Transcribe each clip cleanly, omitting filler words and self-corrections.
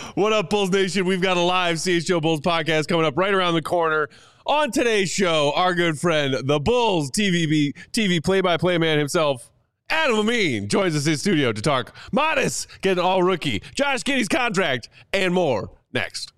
What up, Bulls Nation? We've got a live CHGO Bulls podcast coming up right around the corner. On today's show, our good friend, the Bulls TV play-by-play man himself, Adam Amin, joins us in studio to talk Modest getting all rookie, Josh Giddey's contract, and more next.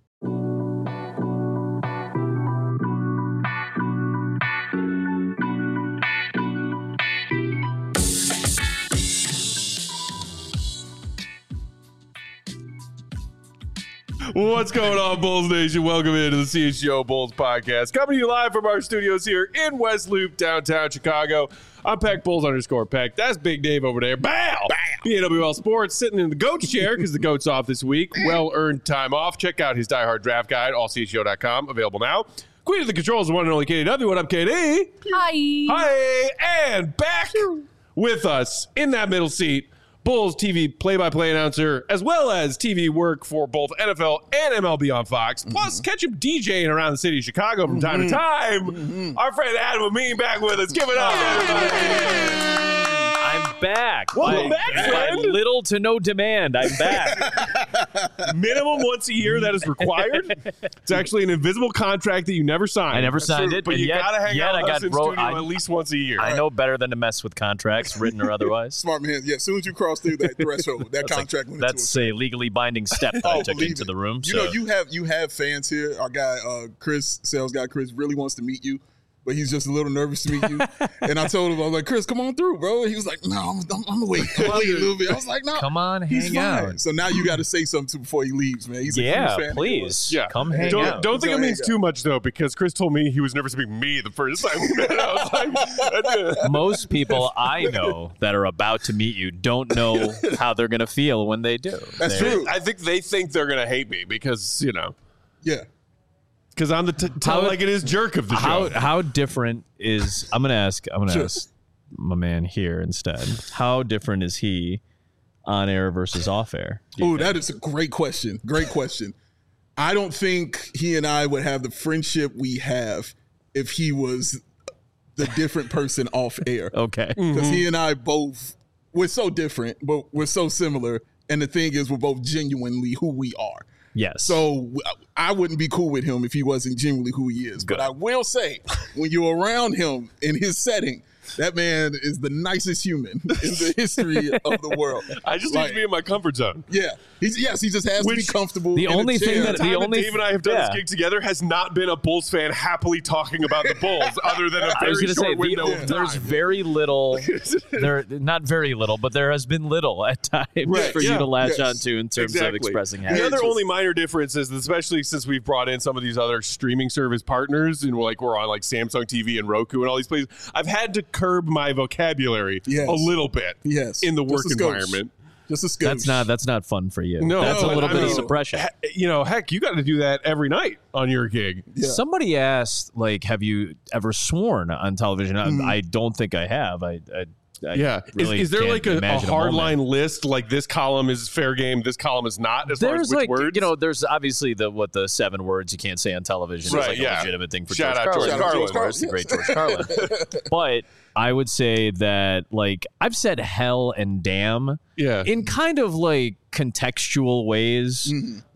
What's going on, Bulls Nation? Welcome into the CHGO Bulls podcast. Coming to you live from our studios here in West Loop, downtown Chicago. I'm Peck Bulls _Peck. That's Big Dave over there. Bow! BAWL Sports sitting in the GOAT's chair because the GOAT's off this week. Well-earned time off. Check out his diehard draft guide, allchgo.com. Available now. Queen of the Controls, the one and only Katie W. What up, Katie? Hi. Hi. And back with us in that middle seat, Bulls TV play-by-play announcer, as well as TV work for both NFL and MLB on Fox, plus catch him DJing around the city of Chicago from time to time. Our friend Adam Amin back with us. Give it up, everybody. I'm back. Welcome back, friend. By little to no demand, I'm back. Minimum once a year, that is required. It's actually an invisible contract that you never signed. I never signed it, but you got to hang out with us in studio at least once a year. I know better than to mess with contracts, written or otherwise. Smart man. Yeah, as soon as you cross through that threshold, that contract went into That's a legally binding step that I took into the room. You know, you have fans here. Our guy, Chris, sales guy Chris, really wants to meet you, but he's just a little nervous to meet you. And I told him, I was like, Chris, come on through, bro. He was like, no, I'm gonna wait. I'm gonna wait a little bit. I was like, no, come on, he's hang out. So now you got to say something before he leaves, man. He's a huge fan. Please, come hang out. Don't think it means too much though, because Chris told me he was nervous to meet me the first time we met. I was like, most people I know that are about to meet you don't know how they're gonna feel when they do. That's true. I think they think they're gonna hate me because yeah. Because I'm the tell like it is jerk of the show. How different is I'm gonna ask my man here instead. How different is he on air versus off air? Oh, that is a great question. Great question. I don't think he and I would have the friendship we have if he was the different person off air. Okay. Because he and I both, we're so different, but we're so similar. And the thing is, we're both genuinely who we are. Yes. So I wouldn't be cool with him if he wasn't genuinely who he is. Good. But I will say, when you're around him in his setting, that man is the nicest human in the history of the world. I just need to be in my comfort zone. Yeah. He just has to be comfortable. The only thing that Dave and I have done this gig together has not been a Bulls fan happily talking about the Bulls, other than a very short window of time. There's very little. Not very little, but there has been little at times for you to latch onto in terms of expressing happiness. The other only minor difference is, especially since we've brought in some of these other streaming service partners, and we're on like Samsung TV and Roku and all these places, I've had to curb my vocabulary a little bit in the work environment. Just a skosh. That's not fun for you. No, that's a little bit of suppression. Heck, you got to do that every night on your gig. Yeah. Somebody asked, have you ever sworn on television? I don't think I have. Really is there like a hard line list? Like this column is fair game, this column is not. As far as which words, there's obviously the 7 words you can't say on television. Right, is a legitimate thing for Shout out George Carlin. George The great George Carlin. But I would say that I've said hell and damn in kind of contextual ways.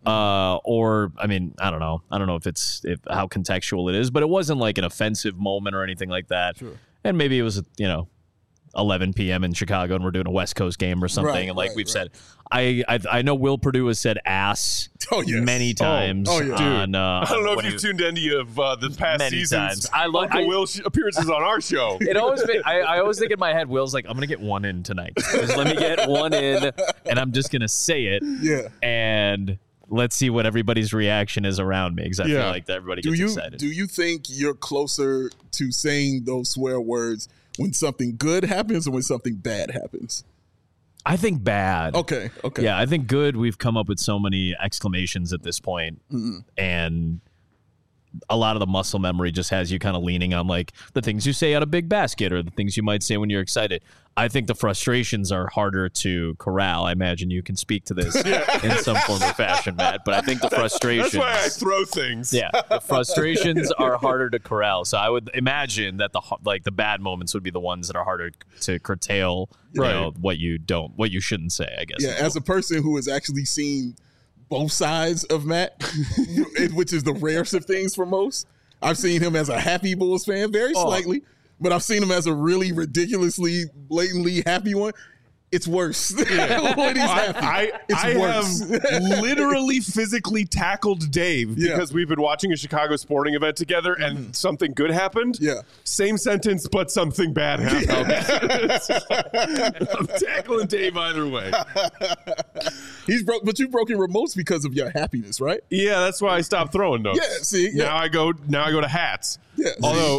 Or I don't know if how contextual it is, but it wasn't like an offensive moment or anything like that. Sure. And maybe it was 11 p.m. in Chicago and we're doing a West Coast game or something. We've said, I know Will Perdue has said ass many times. Dude. I don't know if you've tuned into the past many seasons. Times. I love Will appearances on our show. I always think in my head, Will's like, I'm going to get one in tonight. Just let me get one in and I'm just going to say it. Yeah. And let's see what everybody's reaction is around me, because I feel like everybody gets excited. Do you think you're closer to saying those swear words when something good happens or when something bad happens? I think bad. Okay. Yeah, I think good. We've come up with so many exclamations at this point, and a lot of the muscle memory just has you kind of leaning on the things you say at a big basket or the things you might say when you're excited. I think the frustrations are harder to corral. I imagine you can speak to this in some form or fashion, Matt, but I think the frustrations... That's why I throw things. Yeah, the frustrations are harder to corral. So I would imagine that the bad moments would be the ones that are harder to curtail, what you shouldn't say, I guess. Yeah, as a person who has actually seen both sides of Matt, which is the rarest of things for most. I've seen him as a happy Bulls fan, very slightly, but I've seen him as a really ridiculously, blatantly happy one. It's worse. Yeah. When he's happy. I have literally physically tackled Dave because we've been watching a Chicago sporting event together and something good happened. Yeah. Same sentence, but something bad happened. I'm tackling Dave either way. But you've broken remotes because of your happiness, right? Yeah, that's why I stopped throwing those. Yeah, see. Yeah. Now I go to hats. Yeah. Although,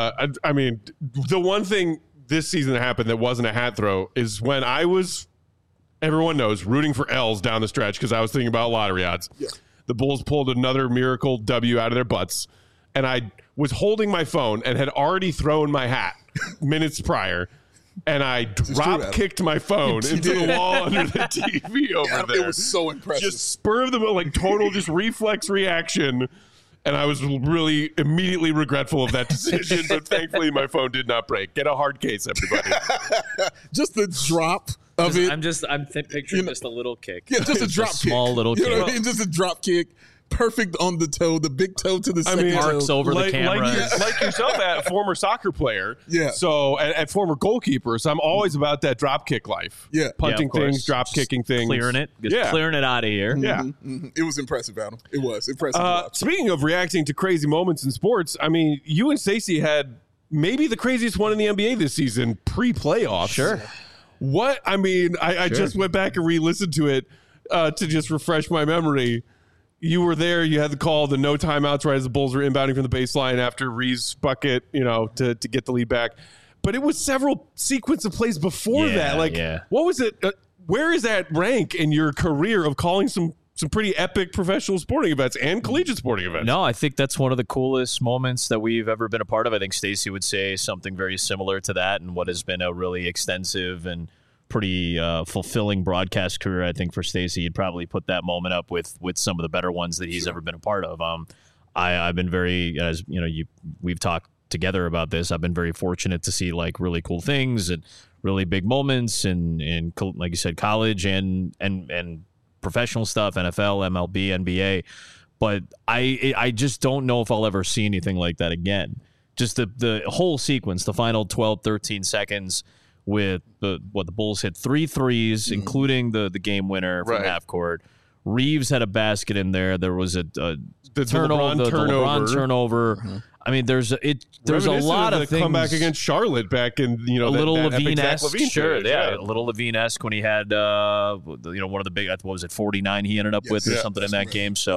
I mean, the one thing this season that happened that wasn't a hat throw is when I was, everyone knows, rooting for L's down the stretch because I was thinking about lottery odds. Yeah. The Bulls pulled another miracle W out of their butts, and I was holding my phone and had already thrown my hat minutes prior, and I drop kicked my phone into the wall under the TV over there. It was so impressive. Just spur of the moment, like total just reflex reaction. And I was really immediately regretful of that decision, but thankfully my phone did not break. Get a hard case, everybody. Just the drop of it. I'm picturing just a little kick. Yeah, just a drop kick. Small little kick. You know what I mean? Just a drop kick. Perfect on the toe, the big toe to the second toe. Arcs over the camera. Like yourself, at former soccer player. Yeah. So, and former goalkeeper. So I'm always about that drop kick life. Yeah. Punting things, drop kicking things. Clearing it. Clearing it out of here. Yeah. Mm-hmm. It was impressive, Adam. It was impressive. Speaking of reacting to crazy moments in sports, I mean, you and Stacey had maybe the craziest one in the NBA this season, pre-playoffs. Sure. What? I mean, I just went back and re-listened to it to just refresh my memory. You were there. You had the call, the no timeouts right as the Bulls were inbounding from the baseline after Reeves' bucket, to get the lead back. But it was several sequence of plays before that. Like, what was it? Where is that rank in your career of calling some pretty epic professional sporting events and collegiate sporting events? No, I think that's one of the coolest moments that we've ever been a part of. I think Stacey would say something very similar to that, and what has been a really extensive and pretty fulfilling broadcast career. I think for Stacey, he'd probably put that moment up with some of the better ones that he's ever been a part of. I've been very, as you know, we've talked together about this. I've been very fortunate to see like really cool things and really big moments in like you said, college and professional stuff, NFL, MLB, NBA. But I just don't know if I'll ever see anything like that again. Just the whole sequence, the final 12, 13 seconds with the Bulls hit 3 threes, including the game winner from half court. Reeves had a basket in there. There was the LeBron turnover. Mm-hmm. I mean, there's a lot of things. Comeback against Charlotte back in a little Levine-esque, sure, a little Levine-esque when he had one of the big, what was it, 49 he ended up with or something in that game. So,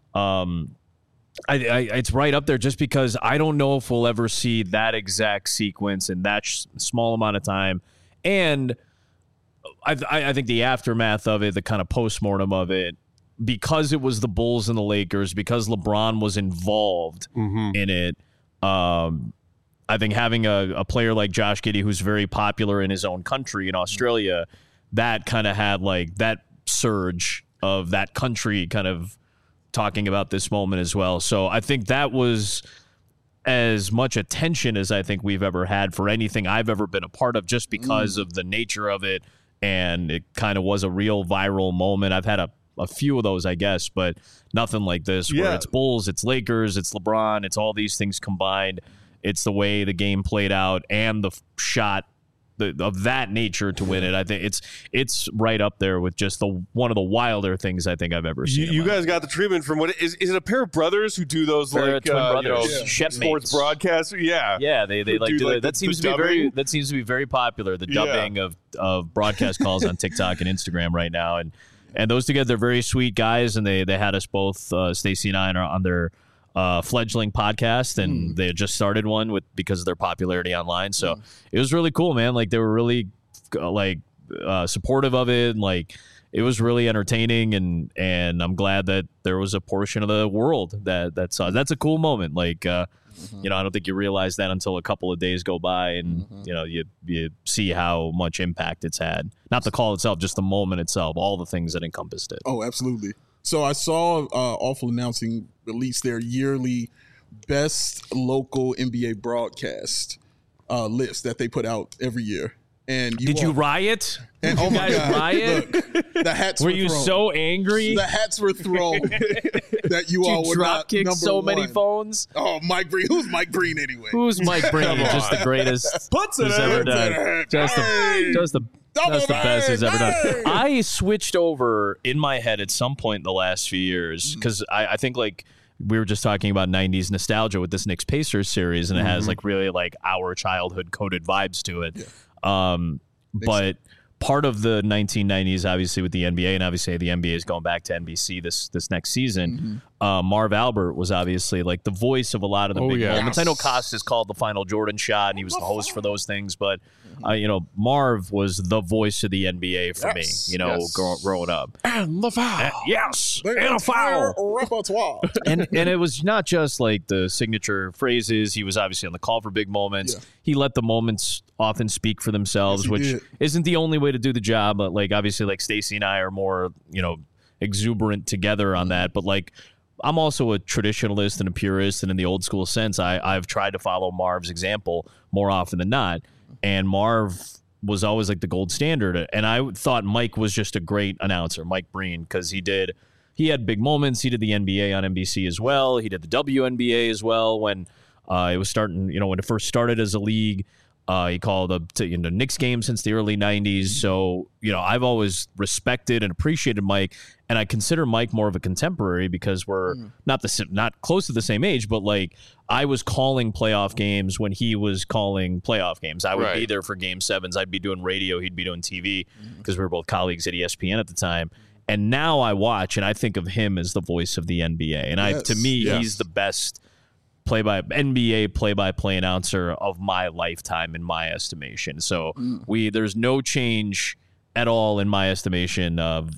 it's right up there just because I don't know if we'll ever see that exact sequence in that small amount of time. And I think the aftermath of it, the kind of postmortem of it, because it was the Bulls and the Lakers, because LeBron was involved in it, I think having a player like Josh Giddey, who's very popular in his own country in Australia, that kind of had like that surge of that country kind of talking about this moment as well. So I think that was as much attention as I think we've ever had for anything I've ever been a part of, just because of the nature of it. And it kind of was a real viral moment. I've had a few of those, I guess, but nothing like this where it's Bulls, it's Lakers, it's LeBron, it's all these things combined. It's the way the game played out and the shot of that nature to win it. I think it's right up there with just one of the wilder things I think I've ever seen. You guys got the treatment from what is it a pair of brothers who do those like sports broadcasts? Yeah, they like do like that. Seems to be very popular. The dubbing of broadcast calls on TikTok and Instagram right now, and those together, they're very sweet guys, and they had us both, Stacey and I, on their fledgling podcast, and they had just started one because of their popularity online. So it was really cool, man. Like they were really supportive of it, and like it was really entertaining, and I'm glad that there was a portion of the world that saw. That's a cool moment. Like I don't think you realize that until a couple of days go by, and you see how much impact it's had. Not the call itself, just the moment itself, all the things that encompassed it. Oh, absolutely. So I saw Awful Announcing release their yearly best local NBA broadcast list that they put out every year. And did you riot? And did you guys riot? Look, the hats were were you thrown. so angry? The hats were thrown that you all were drop not kick number so one. many phones. Oh, Mike Breen. Who's Mike Breen anyway? Who's Mike Breen? Just the greatest Puts it who's in. ever done. Just the That's the best he's ever done. I switched over in my head at some point in the last few years because I think like we were just talking about 90s nostalgia with this Knicks Pacers series, and it has like really like our childhood coded vibes to it. Yeah. But part of the 1990s, obviously with the NBA, and obviously the NBA is going back to NBC this next season. Marv Albert was obviously like the voice of a lot of the big moments. I know Costas called the final Jordan shot, and he was the host for those things, but Marv was the voice of the NBA for me. Growing up. And the foul. And a foul. Repertoire. and it was not just like the signature phrases. He was obviously on the call for big moments. He let the moments often speak for themselves, which isn't the only way to do the job. But like obviously, like Stacey and I are more exuberant together on that. But like I'm also a traditionalist and a purist, and in the old school sense, I've tried to follow Marv's example more often than not. And Marv was always like the gold standard. And I thought Mike was just a great announcer, Mike Breen, because he had big moments. He did the NBA on NBC as well. He did the WNBA as well when it was starting, when it first started as a league. He called up to Knicks games since the early 90s. So, I've always respected and appreciated Mike, and I consider Mike more of a contemporary because we're not close to the same age, but like I was calling playoff games when he was calling playoff games. I would be there for game sevens. I'd be doing radio. He'd be doing TV because we were both colleagues at ESPN at the time. And now I watch and I think of him as the voice of the NBA. And to me, he's the best NBA play-by-play announcer of my lifetime, in my estimation. So there's no change at all in my estimation of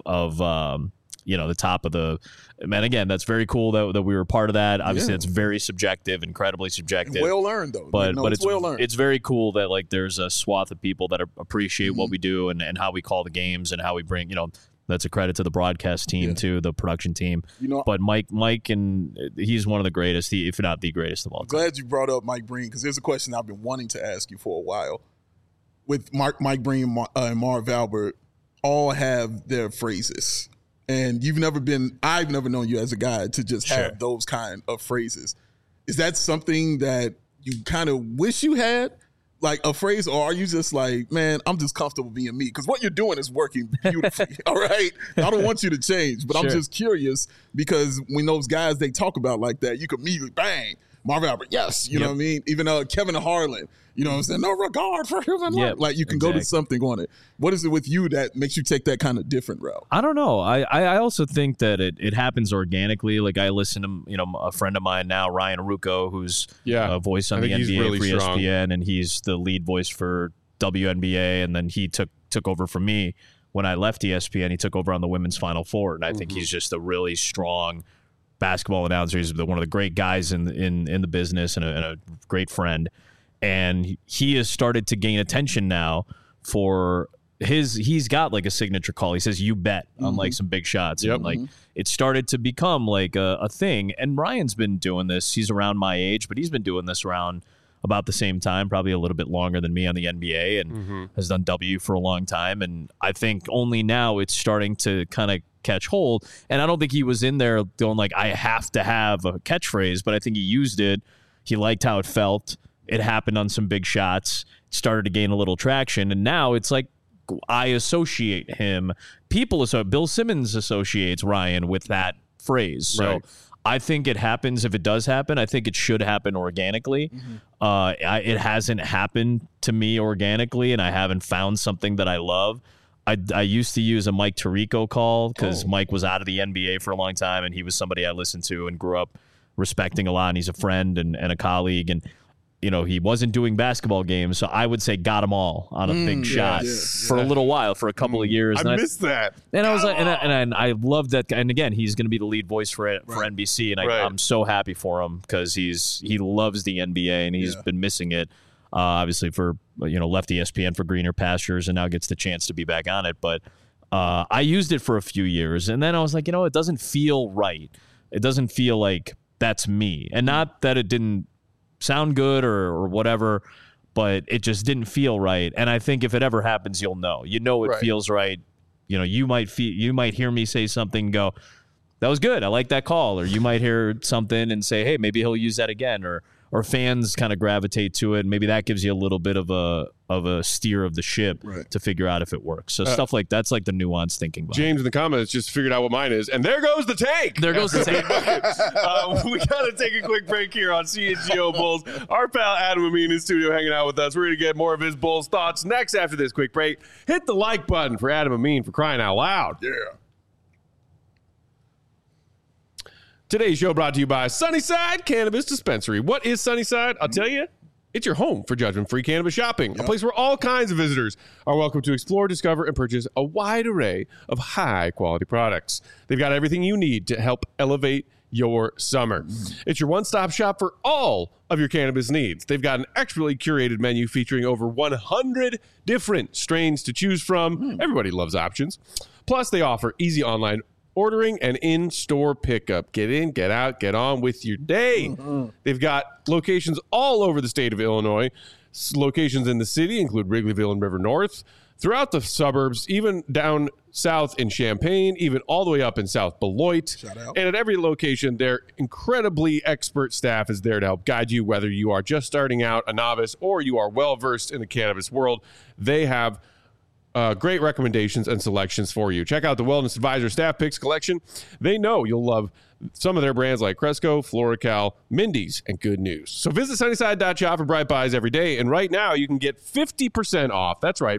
the top of the. Man, again, that's very cool that we were part of that. Obviously, that's very subjective, incredibly subjective. Well earned though, but it's well earned. It's very cool that like there's a swath of people that appreciate what we do and how we call the games and how we bring That's a credit to the broadcast team too, the production team. But Mike, and he's one of the greatest, if not the greatest of all time. Glad you brought up Mike Breen because there's a question I've been wanting to ask you for a while. With Mike Breen and Marv Albert, all have their phrases, and I've never known you as a guy to just have those kind of phrases. Is that something that you kind of wish you had? Like a phrase, or are you just like, man, I'm just comfortable being me? Because what you're doing is working beautifully, all right? I don't want you to change, but I'm just curious because when those guys, they talk about like that, you could immediately, bang, Marv Albert, yes, you know what I mean? Even Kevin Harlan, what I'm saying? No regard for human life. Like you can go to something on it. What is it with you that makes you take that kind of different route? I don't know. I also think that it happens organically. Like I listen to, a friend of mine now, Ryan Ruocco, who's a voice on the NBA really for ESPN, and he's the lead voice for WNBA, and then he took over from me when I left ESPN. He took over on the Women's Final Four, and I think he's just a really strong basketball announcer. He's one of the great guys in the business and a great friend. And he has started to gain attention now for he's got like a signature call. He says, "You bet," on like some big shots. And like it started to become like a thing. And Ryan's been doing this. He's around my age, but he's been doing this around about the same time, probably a little bit longer than me on the NBA, and has done W for a long time. And I think only now it's starting to kind of catch hold. And I don't think he was in there going like, I have to have a catchphrase, but I think he used it. He liked how it felt. It happened on some big shots, started to gain a little traction, and now it's like I associate him. Bill Simmons associates Ryan with that phrase. So I think it happens. If it does happen, I think it should happen organically. It hasn't happened to me organically, and I haven't found something that I love. I used to use a Mike Tirico call because Mike was out of the NBA for a long time, and he was somebody I listened to and grew up respecting a lot, and he's a friend and a colleague, and he wasn't doing basketball games, so I would say got them all on a big shot for a little while, for a couple of years. I missed that. And I was like, and I love that. And again, he's going to be the lead voice for NBC, and I'm so happy for him because he loves the NBA and he's been missing it. Obviously, for left ESPN for greener pastures, and now gets the chance to be back on it. But I used it for a few years, and then I was like, it doesn't feel right. It doesn't feel like that's me, and not that it didn't sound good or whatever, but it just didn't feel right. And I think if it ever happens, you'll know. You know it feels right. You know, you might hear me say something and go, that was good. I like that call. Or you might hear something and say, hey, maybe he'll use that again. Or fans kind of gravitate to it. And maybe that gives you a little bit of a steer of the ship to figure out if it works. So stuff like that's like the nuanced thinking. James in the comments just figured out what mine is. And there goes the take. There goes the take. We got to take a quick break here on CHGO Bulls. Our pal Adam Amin in studio hanging out with us. We're going to get more of his Bulls thoughts next after this quick break. Hit the like button for Adam Amin for crying out loud. Yeah. Today's show brought to you by Sunnyside Cannabis Dispensary. What is Sunnyside? I'll tell you. It's your home for judgment-free cannabis shopping, a place where all kinds of visitors are welcome to explore, discover, and purchase a wide array of high-quality products. They've got everything you need to help elevate your summer. It's your one-stop shop for all of your cannabis needs. They've got an expertly curated menu featuring over 100 different strains to choose from. Everybody loves options. Plus, they offer easy online ordering and in-store pickup. Get in, get out, get on with your day. They've got locations all over the state of Illinois. Locations in the city include Wrigleyville and River North, throughout the suburbs, even down south in Champaign, even all the way up in South Beloit. Shout out. And at every location, their incredibly expert staff is there to help guide you, whether you are just starting out, a novice, or you are well-versed in the cannabis world. They have great recommendations and selections for you. Check out the Wellness Advisor Staff Picks collection. They know you'll love some of their brands like Cresco, FloraCal, Mindy's, and Good News. So visit Sunnyside.shop for Bright Buys every day. And right now, you can get 50% off. That's right,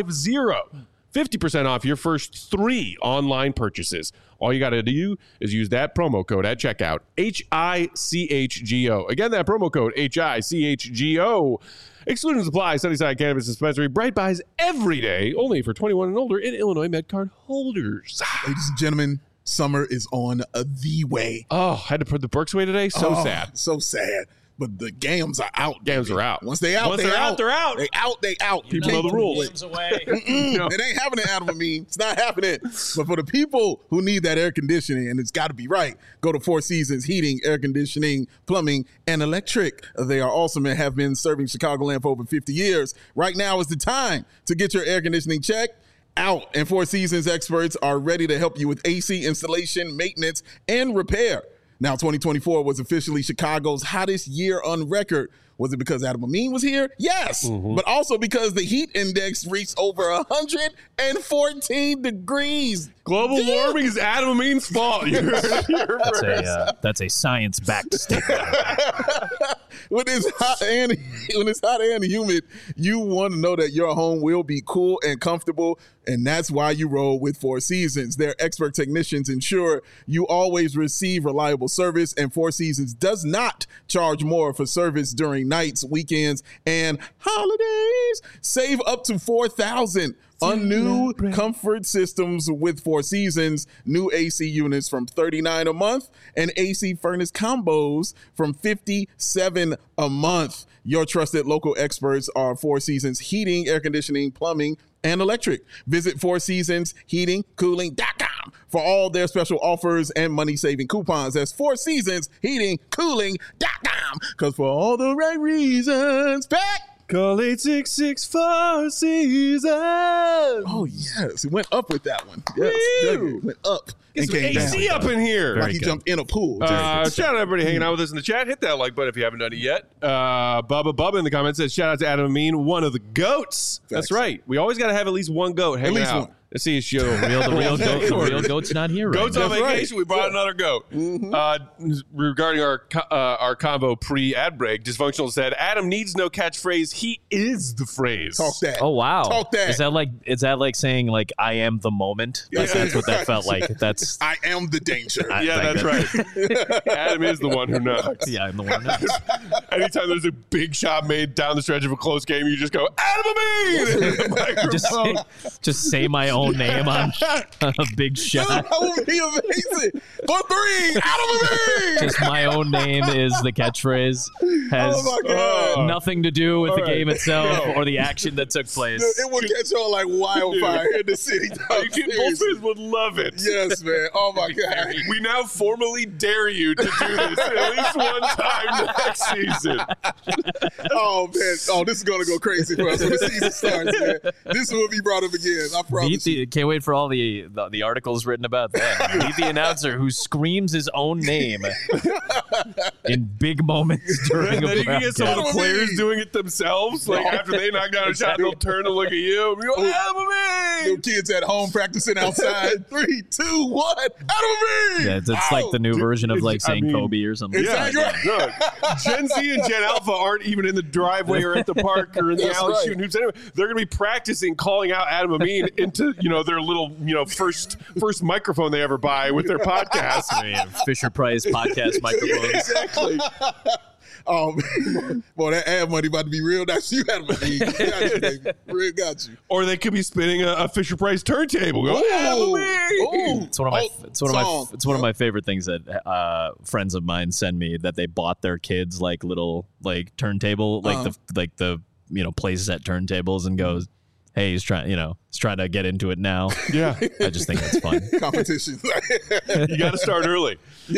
50% off your first 3 online purchases. All you got to do is use that promo code at checkout, HICHGO. Again, that promo code, HICHGO. Exclusions apply. Sunnyside Cannabis Dispensary. Bright Buys every day, only for 21 and older in Illinois MedCard holders. Ladies and gentlemen, summer is on the way. Oh, had to put the Berks away today? So sad. So sad. But the games are out. Games are out. Once they're out, they're out. They out. People know the rules. Games away. It ain't happening, Adam Amin. It's not happening. But for the people who need that air conditioning, and it's got to be right, go to Four Seasons Heating, Air Conditioning, Plumbing, and Electric. They are awesome and have been serving Chicagoland for over 50 years. Right now is the time to get your air conditioning checked out. And Four Seasons experts are ready to help you with AC installation, maintenance, and repair. Now, 2024 was officially Chicago's hottest year on record. Was it because Adam Amin was here? Yes, but also because the heat index reached over 114 degrees. Global warming is Adam Amin's fault. That's a science-backed statement. When it's hot and humid, you want to know that your home will be cool and comfortable, and that's why you roll with Four Seasons. Their expert technicians ensure you always receive reliable service, and Four Seasons does not charge more for service during nights, weekends, and holidays. Save up to $4,000 on new comfort systems with Four Seasons. New AC units from $39 a month and AC furnace combos from $57 a month. Your trusted local experts are Four Seasons Heating, Air Conditioning, Plumbing, and Electric. Visit fourseasonsheatingcooling.com for all their special offers and money-saving coupons. That's fourseasonsheatingcooling.com. Because for all the right reasons, call 866 Seasons. Oh, yes. It went up with that one. Yes. It went up. Get some AC up in here. Like he jumped in a pool. Shout out everybody hanging out with us in the chat. Hit that like button if you haven't done it yet. Bubba in the comments says, shout out to Adam Amin, one of the GOATs. That's right. We always got to have at least one GOAT hanging out. One. Let's see his show. The real goat's not here right Goat's now. on vacation. We brought another goat. Regarding our convo pre-ad break, Dysfunctional said, Adam needs no catchphrase. He is the phrase. Talk that. Oh, wow. Talk that. Is that like saying, like, I am the moment? Like, that's what that felt like. That's I am the danger. That's right. Adam is the one who knocks. Yeah, I'm the one who knocks. Anytime there's a big shot made down the stretch of a close game, you just go, Adam Amin! just say my own own name on a big shot. Dude, that would be amazing. For 3, Adam Levine. Just my own name is the catchphrase. Has nothing to do with the game itself or the action that took place. Dude, it would catch on like wildfire in the city. Bulls fans would love it. Yes, man. Oh my God. We now formally dare you to do this at least one time next season. Oh man. Oh, this is gonna go crazy for us when the season starts, man. This will be brought up again. I promise. Can't wait for all the articles written about that. Meet the announcer who screams his own name in big moments during and a then you can get some of the Adam players Levine. doing it themselves. Like after they knock down a shot, they'll turn and look at you. And you go, Adam Levine! Little kids at home practicing outside. 3, 2, 1. Adam Levine! Yeah, it's like the new version of like saying Kobe or something. Exactly. Look, Gen Z and Gen Alpha aren't even in the driveway or at the park or in the That's alley right. shooting hoops. Anyway, they're going to be practicing calling out Adam Amin into their little first microphone they ever buy with their podcast. Fisher Price podcast microphones. Exactly. Oh, man. Boy, that ad money about to be real. That's you, Adam Levine. Got you, baby. Real got you. Or they could be spinning a Fisher Price turntable. Go, Adam Amin! Ooh. It's one of my favorite things that friends of mine send me, that they bought their kids like little like turntable, like the places at turntables, and goes, hey, he's trying to get into it now. Yeah. I just think that's fun. Competition. You got to start early.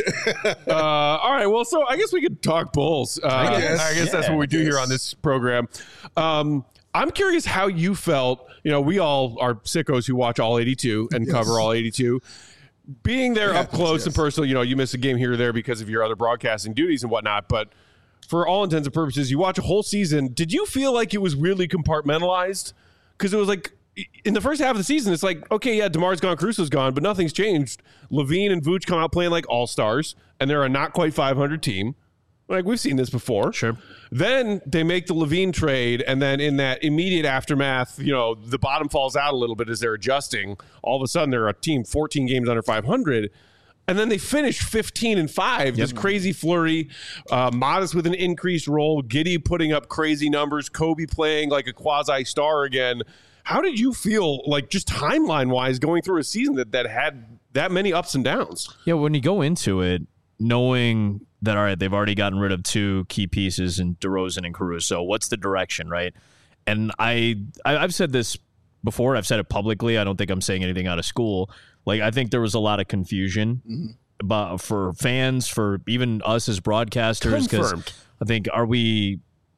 All right. Well, so I guess we could talk Bulls. I guess that's what we do here on this program. I'm curious how you felt. We all are sickos who watch all 82 and cover all 82. Being there up close and personal, you miss a game here or there because of your other broadcasting duties and whatnot. But for all intents and purposes, you watch a whole season. Did you feel like it was really compartmentalized? Because it was like in the first half of the season, it's like, okay, yeah, DeMar's gone, Caruso's gone, but nothing's changed. Levine and Vooch come out playing like all-stars, and they're a not quite 500 team. Like, we've seen this before. Sure. Then they make the Levine trade, and then in that immediate aftermath, the bottom falls out a little bit as they're adjusting. All of a sudden, they're a team 14 games under 500. And then they finished 15-5. This crazy flurry, Modest with an increased role, Giddey putting up crazy numbers, Kobe playing like a quasi-star again. How did you feel, like just timeline-wise, going through a season that had that many ups and downs? Yeah, when you go into it, knowing that, all right, they've already gotten rid of two key pieces in DeRozan and Caruso, what's the direction, right? And I've said this before. I've said it publicly. I don't think I'm saying anything out of school. Like, I think there was a lot of confusion about, for fans, for even us as broadcasters. Because I think, are we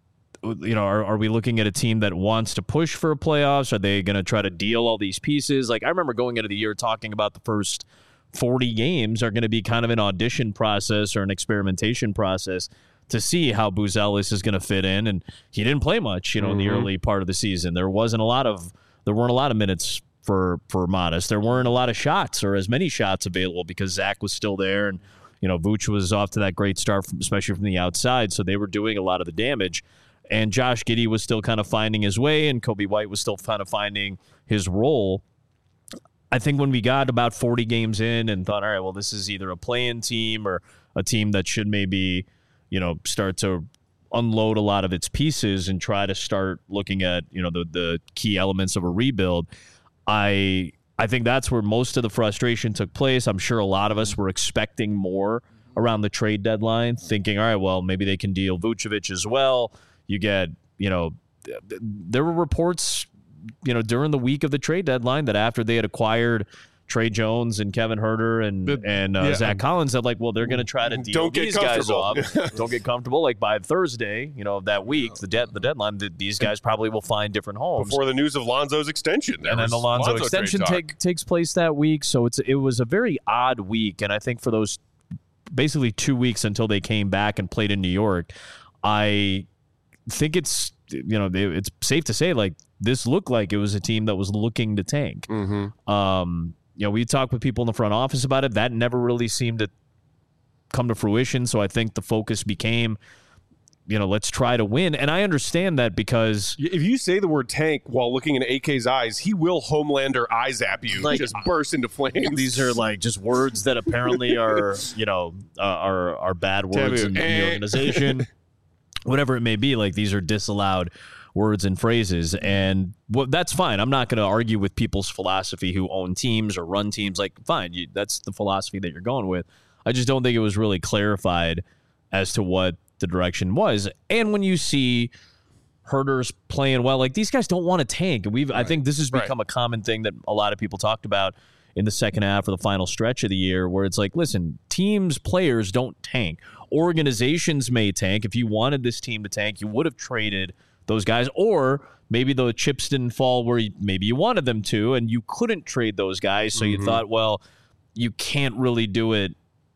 looking at a team that wants to push for playoffs? Are they going to try to deal all these pieces? Like, I remember going into the year talking about the first 40 games are going to be kind of an audition process or an experimentation process to see how Booz Ellis is going to fit in. And he didn't play much, in the early part of the season. There weren't a lot of minutes for Modest. There weren't a lot of shots or as many shots available because Zach was still there, and Vooch was off to that great start, especially from the outside, so they were doing a lot of the damage. And Josh Giddey was still kind of finding his way, and Kobe White was still kind of finding his role. I think when we got about 40 games in and thought, all right, well, this is either a play-in team or a team that should maybe, start to unload a lot of its pieces and try to start looking at, the key elements of a rebuild. I think that's where most of the frustration took place. I'm sure a lot of us were expecting more around the trade deadline, thinking, all right, well, maybe they can deal Vucevic as well. You get, there were reports, during the week of the trade deadline that after they had acquired Trey Jones and Kevin Huerter and Zach Collins, that like, well, they're going to try to deal these guys off. Don't get comfortable. Like by Thursday, of that week, the deadline, these guys probably will find different homes. Before the news of Lonzo's extension. And then the Lonzo extension takes place that week. So it was a very odd week. And I think for those basically 2 weeks until they came back and played in New York, I think it's safe to say like this looked like it was a team that was looking to tank. We talked with people in the front office about it. That never really seemed to come to fruition. So I think the focus became, let's try to win. And I understand that because if you say the word tank while looking in AK's eyes, he will Homelander eye zap you, like, just burst into flames. These are like just words that apparently are, are bad words in the organization. Whatever it may be, like these are disallowed words and phrases. And that's fine. I'm not going to argue with people's philosophy who own teams or run teams. Like, fine, that's the philosophy that you're going with. I just don't think it was really clarified as to what the direction was. And when you see Herder's playing well, like, these guys don't want to tank. I think this has become a common thing that a lot of people talked about in the second half or the final stretch of the year, where it's like, listen, teams, players don't tank. Organizations may tank. If you wanted this team to tank, you would have traded those guys, or maybe the chips didn't fall where maybe you wanted them to, and you couldn't trade those guys. So you thought, well, you can't really do it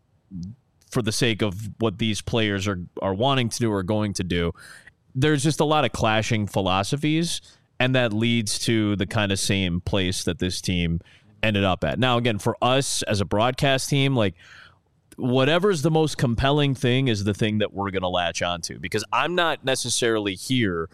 for the sake of what these players are wanting to do or going to do. There's just a lot of clashing philosophies, and that leads to the kind of same place that this team ended up at. Now, again, for us as a broadcast team, like, whatever's the most compelling thing is the thing that we're going to latch onto, because I'm not necessarily here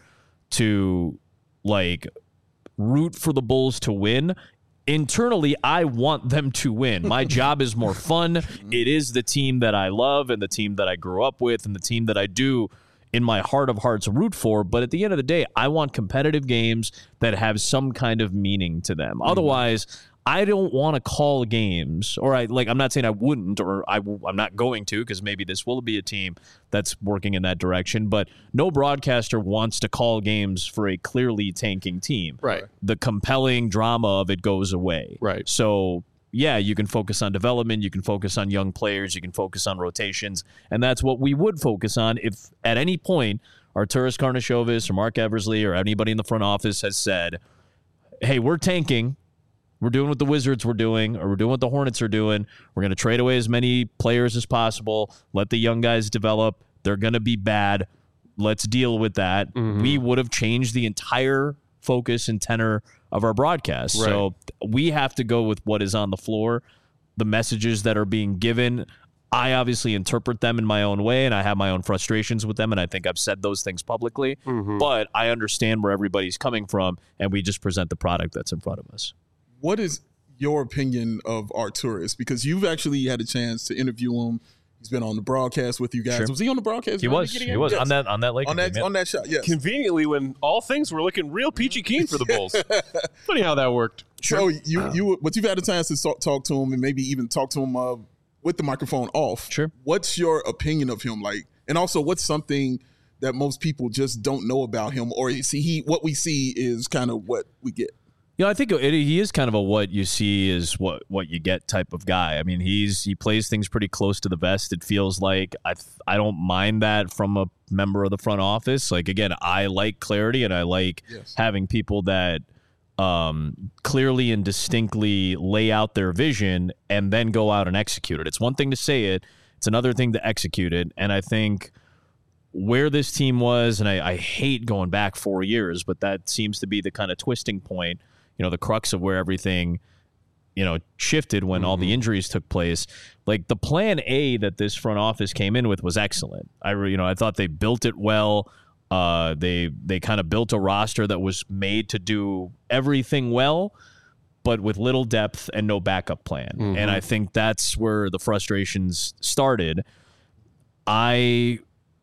to, like, root for the Bulls to win. Internally, I want them to win. My job is more fun. It is the team that I love and the team that I grew up with and the team that I do in my heart of hearts root for. But at the end of the day, I want competitive games that have some kind of meaning to them. Otherwise, I don't want to call games, or I'm not saying I wouldn't, or I'm not going to, because maybe this will be a team that's working in that direction, but no broadcaster wants to call games for a clearly tanking team. Right. The compelling drama of it goes away. Right. So, yeah, you can focus on development, you can focus on young players, you can focus on rotations, and that's what we would focus on if at any point Arturas Karnisovas or Mark Eversley or anybody in the front office has said, hey, we're tanking. We're doing what the Wizards were doing, or we're doing what the Hornets are doing. We're going to trade away as many players as possible. Let the young guys develop. They're going to be bad. Let's deal with that. We would have changed the entire focus and tenor of our broadcast. Right. So we have to go with what is on the floor, the messages that are being given. I obviously interpret them in my own way, and I have my own frustrations with them, and I think I've said those things publicly. But I understand where everybody's coming from, and we just present the product that's in front of us. What is your opinion of Arturas? Because you've actually had a chance to interview him. He's been on the broadcast with you guys. Sure. Was he on the broadcast? He was. He was. Yes. On that Lakers game. On that shot, yes. Conveniently, when all things were looking real peachy keen for the Bulls. Funny how that worked. Sure. So you've had a chance to talk to him and maybe even talk to him with the microphone off. Sure. What's your opinion of him like? And also, what's something that most people just don't know about him, or what we see is kind of what we get? I think he is kind of a what you see is what you get type of guy. I mean, he plays things pretty close to the vest. It feels like I don't mind that from a member of the front office. Like, again, I like clarity, and I like having people that clearly and distinctly lay out their vision and then go out and execute it. It's one thing to say it. It's another thing to execute it. And I think where this team was, and I hate going back 4 years, but that seems to be the kind of twisting point, the crux of where everything, shifted when all the injuries took place. Like, the plan A that this front office came in with was excellent. I thought they built it well. They kind of built a roster that was made to do everything well, but with little depth and no backup plan. And I think that's where the frustrations started. Like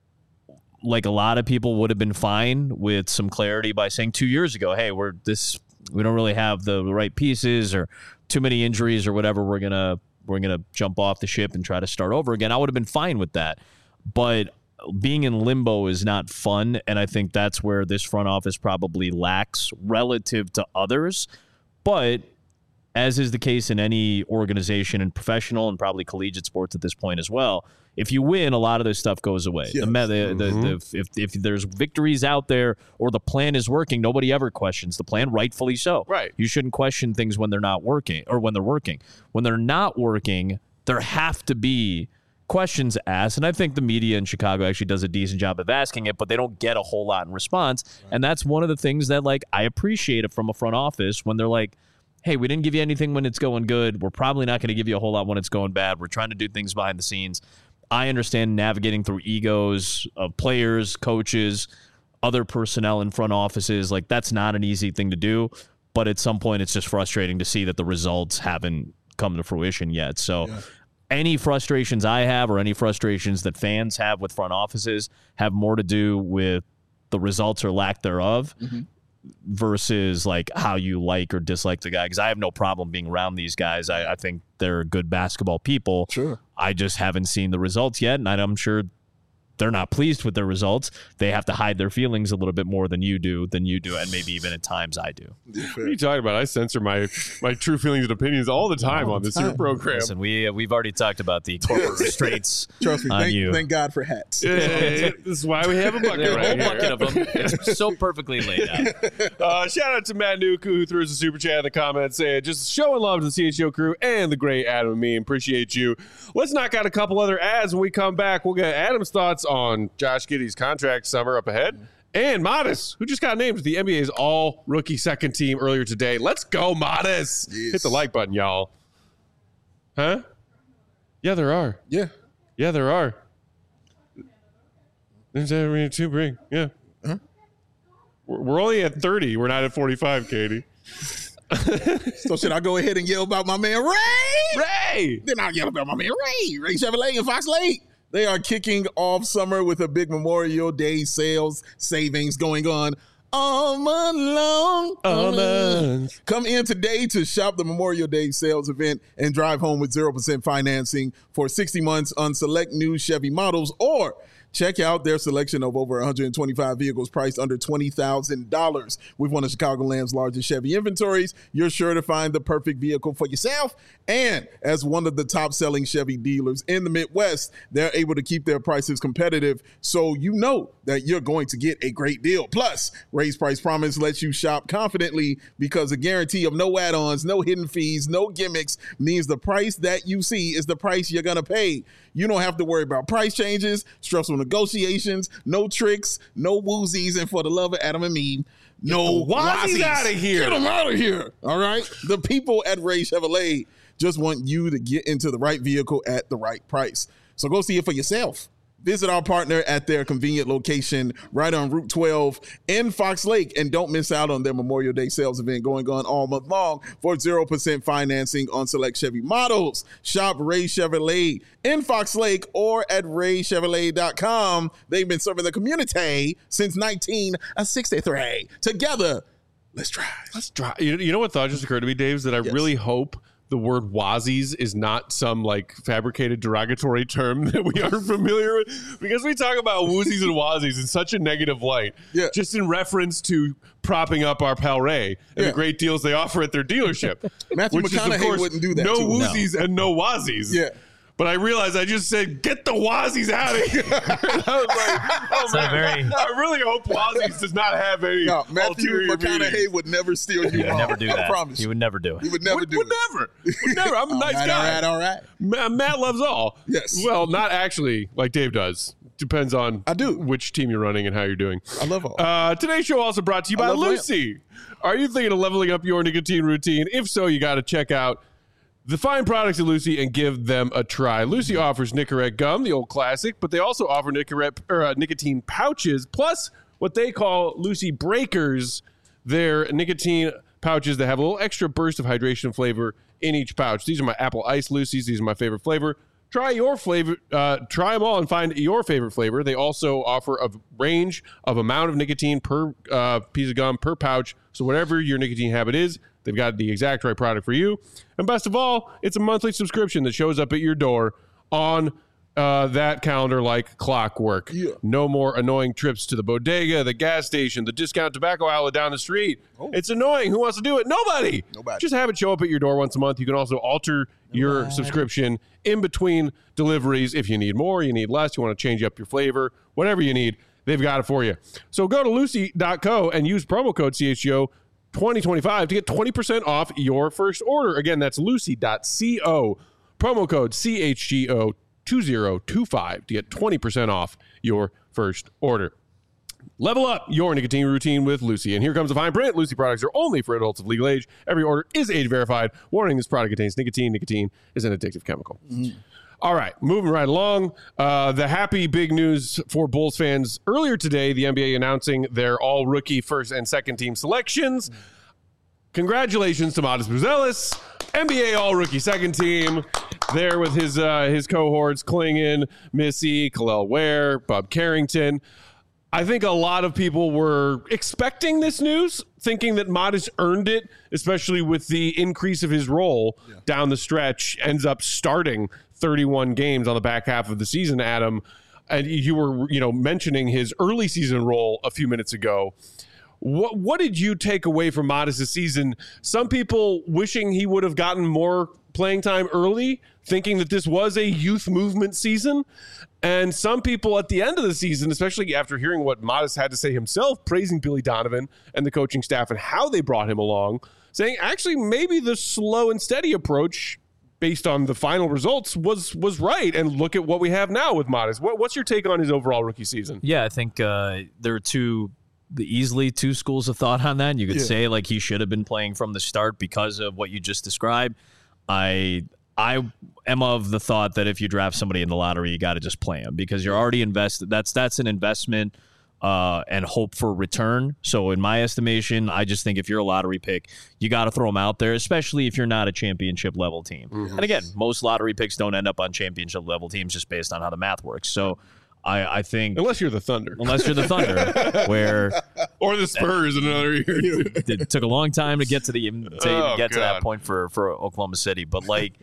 a lot of people, would have been fine with some clarity by saying 2 years ago, hey, we don't really have the right pieces or too many injuries or whatever. We're gonna jump off the ship and try to start over again. I would have been fine with that. But being in limbo is not fun, and I think that's where this front office probably lacks relative to others. But as is the case in any organization and professional and probably collegiate sports at this point as well, if you win, a lot of this stuff goes away. Yes. If there's victories out there or the plan is working, nobody ever questions the plan, rightfully so. Right. You shouldn't question things when they're not working or when they're working. When they're not working, there have to be questions asked, and I think the media in Chicago actually does a decent job of asking it, but they don't get a whole lot in response. Right. And that's one of the things that, I appreciate it from a front office when they're like, hey, we didn't give you anything when it's going good. We're probably not going to give you a whole lot when it's going bad. We're trying to do things behind the scenes. I understand navigating through egos of players, coaches, other personnel in front offices. That's not an easy thing to do, but at some point it's just frustrating to see that the results haven't come to fruition yet. So any frustrations I have or any frustrations that fans have with front offices have more to do with the results or lack thereof versus like how you like or dislike the guy. Because I have no problem being around these guys. I think they're good basketball people. Sure. I just haven't seen the results yet, and I'm sure they're not pleased with their results. They have to hide their feelings a little bit more than you do, and maybe even at times I do. What are you talking about? I censor my true feelings and opinions all the time on this here program. Listen, we've already talked about the corporate restraints. Trust me, on you. Thank God for hats. Yeah, this is why we have a bucket right here. Bucket of them. It's so perfectly laid out. Shout out to Matt Nuke, who threw us a super chat in the comments saying, just showing love to the CHO crew and the great Adam and me. Appreciate you. Let's knock out a couple other ads. When we come back, we'll get Adam's thoughts on Josh Giddey's contract summer up ahead. And Modest, who just got named to the NBA's all-rookie second team earlier today. Let's go, Modest. Yes. Hit the like button, y'all. Huh? Yeah, there are. Yeah. Yeah, there are. There's every two bring. Yeah. Huh? We're only at 30. We're not at 45, Katie. So should I go ahead and yell about my man Ray? Ray! Then I'll yell about my man Ray Chevrolet and Fox Lake. They are kicking off summer with a big Memorial Day sales savings going on all month long. Come in today to shop the Memorial Day sales event and drive home with 0% financing for 60 months on select new Chevy models, or check out their selection of over 125 vehicles priced under $20,000. With one of Chicagoland's largest Chevy inventories, you're sure to find the perfect vehicle for yourself. And as one of the top-selling Chevy dealers in the Midwest, they're able to keep their prices competitive, so you know that you're going to get a great deal. Plus, Ray's Price Promise lets you shop confidently because a guarantee of no add-ons, no hidden fees, no gimmicks means the price that you see is the price you're going to pay. You don't have to worry about price changes, stressful negotiations, no tricks, no woozies, and for the love of Adam and me, no Wazzies out of here. Get them out of here. All right? The people at Ray Chevrolet just want you to get into the right vehicle at the right price. So go see it for yourself. Visit our partner at their convenient location right on Route 12 in Fox Lake. And don't miss out on their Memorial Day sales event going on all month long for 0% financing on select Chevy models. Shop Ray Chevrolet in Fox Lake or at raychevrolet.com. They've been serving the community since 1963. Together, let's drive. Let's drive. You know what thought just occurred to me, Dave, is that I really hope the word Wazzies is not some like fabricated derogatory term that we aren't familiar with, because we talk about woozies and wazzies in such a negative light, just in reference to propping up our pal Ray and the great deals they offer at their dealership. Matthew McConaughey wouldn't do that. No woozies and no wazzies. Yeah. But I realized I just said, get the Wazzies out of here. And I was like, oh, man, I really hope Wazzies does not have any Matthew McConaughey would never steal you wrong. Never do that. I promise He would never do it. He would never do it. Would never. I'm a nice guy. All right. Matt loves all. Yes. Well, not actually like Dave does. Depends on which team you're running and how you're doing. I love all. Today's show also brought to you by Lucy. Are you thinking of leveling up your nicotine routine? If so, you got to check out the fine products at Lucy and give them a try. Lucy offers Nicorette gum, the old classic, but they also offer nicotine pouches, plus what they call Lucy Breakers. They're nicotine pouches that have a little extra burst of hydration and flavor in each pouch. These are my apple ice Lucy's. These are my favorite flavor. Try your flavor. Try them all and find your favorite flavor. They also offer a range of amount of nicotine per piece of gum, per pouch. So whatever your nicotine habit is, they've got the exact right product for you. And best of all, it's a monthly subscription that shows up at your door on that calendar like clockwork. Yeah. No more annoying trips to the bodega, the gas station, the discount tobacco outlet down the street. It's annoying. Who wants to do it? Nobody. Just have it show up at your door once a month. You can also alter your subscription in between deliveries. If you need more, you need less, you want to change up your flavor, whatever you need, they've got it for you. So go to lucy.co and use promo code CHGO 2025 to get 20% off your first order. Again, that's lucy.co. Promo code CHGO 2025 to get 20% off your first order. Level up your nicotine routine with Lucy. And here comes the fine print. Lucy products are only for adults of legal age. Every order is age verified. Warning, this product contains nicotine. Nicotine is an addictive chemical. All right, moving right along. The happy big news for Bulls fans earlier today, the NBA announcing their all-rookie first and second team selections. Congratulations to Modest Buzelis, NBA all-rookie second team, there with his cohorts, Klingon, Missy, Khalil Ware, Bob Carrington. I think a lot of people were expecting this news, thinking that Modest earned it, especially with the increase of his role down the stretch, ends up starting 31 games on the back half of the season, Adam. And you were, mentioning his early season role a few minutes ago. What did you take away from Modest this season? Some people wishing he would have gotten more playing time early, thinking that this was a youth movement season. And some people at the end of the season, especially after hearing what Modest had to say himself, praising Billy Donovan and the coaching staff and how they brought him along, saying actually maybe the slow and steady approach based on the final results was right. And look at what we have now with Modest. What's your take on his overall rookie season? Yeah, I think there are easily two schools of thought on that. And you could say like he should have been playing from the start because of what you just described. I am of the thought that if you draft somebody in the lottery, you got to just play him because you're already invested. That's an investment and hope for return. So in my estimation, I just think if you're a lottery pick, you got to throw them out there, especially if you're not a championship level team. Mm-hmm. And again, most lottery picks don't end up on championship level teams just based on how the math works. So I think unless you're the Thunder, where or the Spurs in another year. It took a long time to get to to that point for Oklahoma City, but like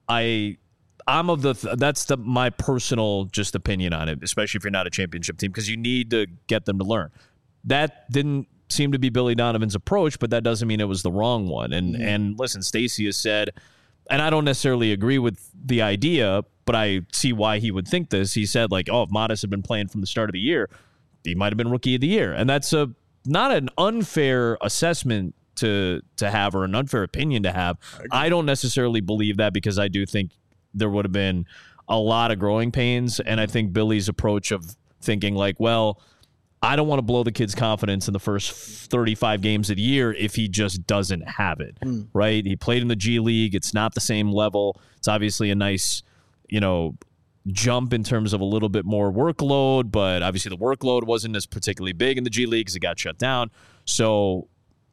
I'm of that's my personal just opinion on it, especially if you're not a championship team, because you need to get them to learn. That didn't seem to be Billy Donovan's approach, but that doesn't mean it was the wrong one. And listen, Stacey has said, and I don't necessarily agree with the idea, but I see why he would think this. He said, like, if Modest had been playing from the start of the year, he might have been rookie of the year. And that's not an unfair assessment to have or an unfair opinion to have. I don't necessarily believe that because I do think there would have been a lot of growing pains. And I think Billy's approach of thinking like, well, I don't want to blow the kid's confidence in the first 35 games of the year if he just doesn't have it, right? He played in the G League. It's not the same level. It's obviously a nice, jump in terms of a little bit more workload, but obviously the workload wasn't as particularly big in the G League because it got shut down. So,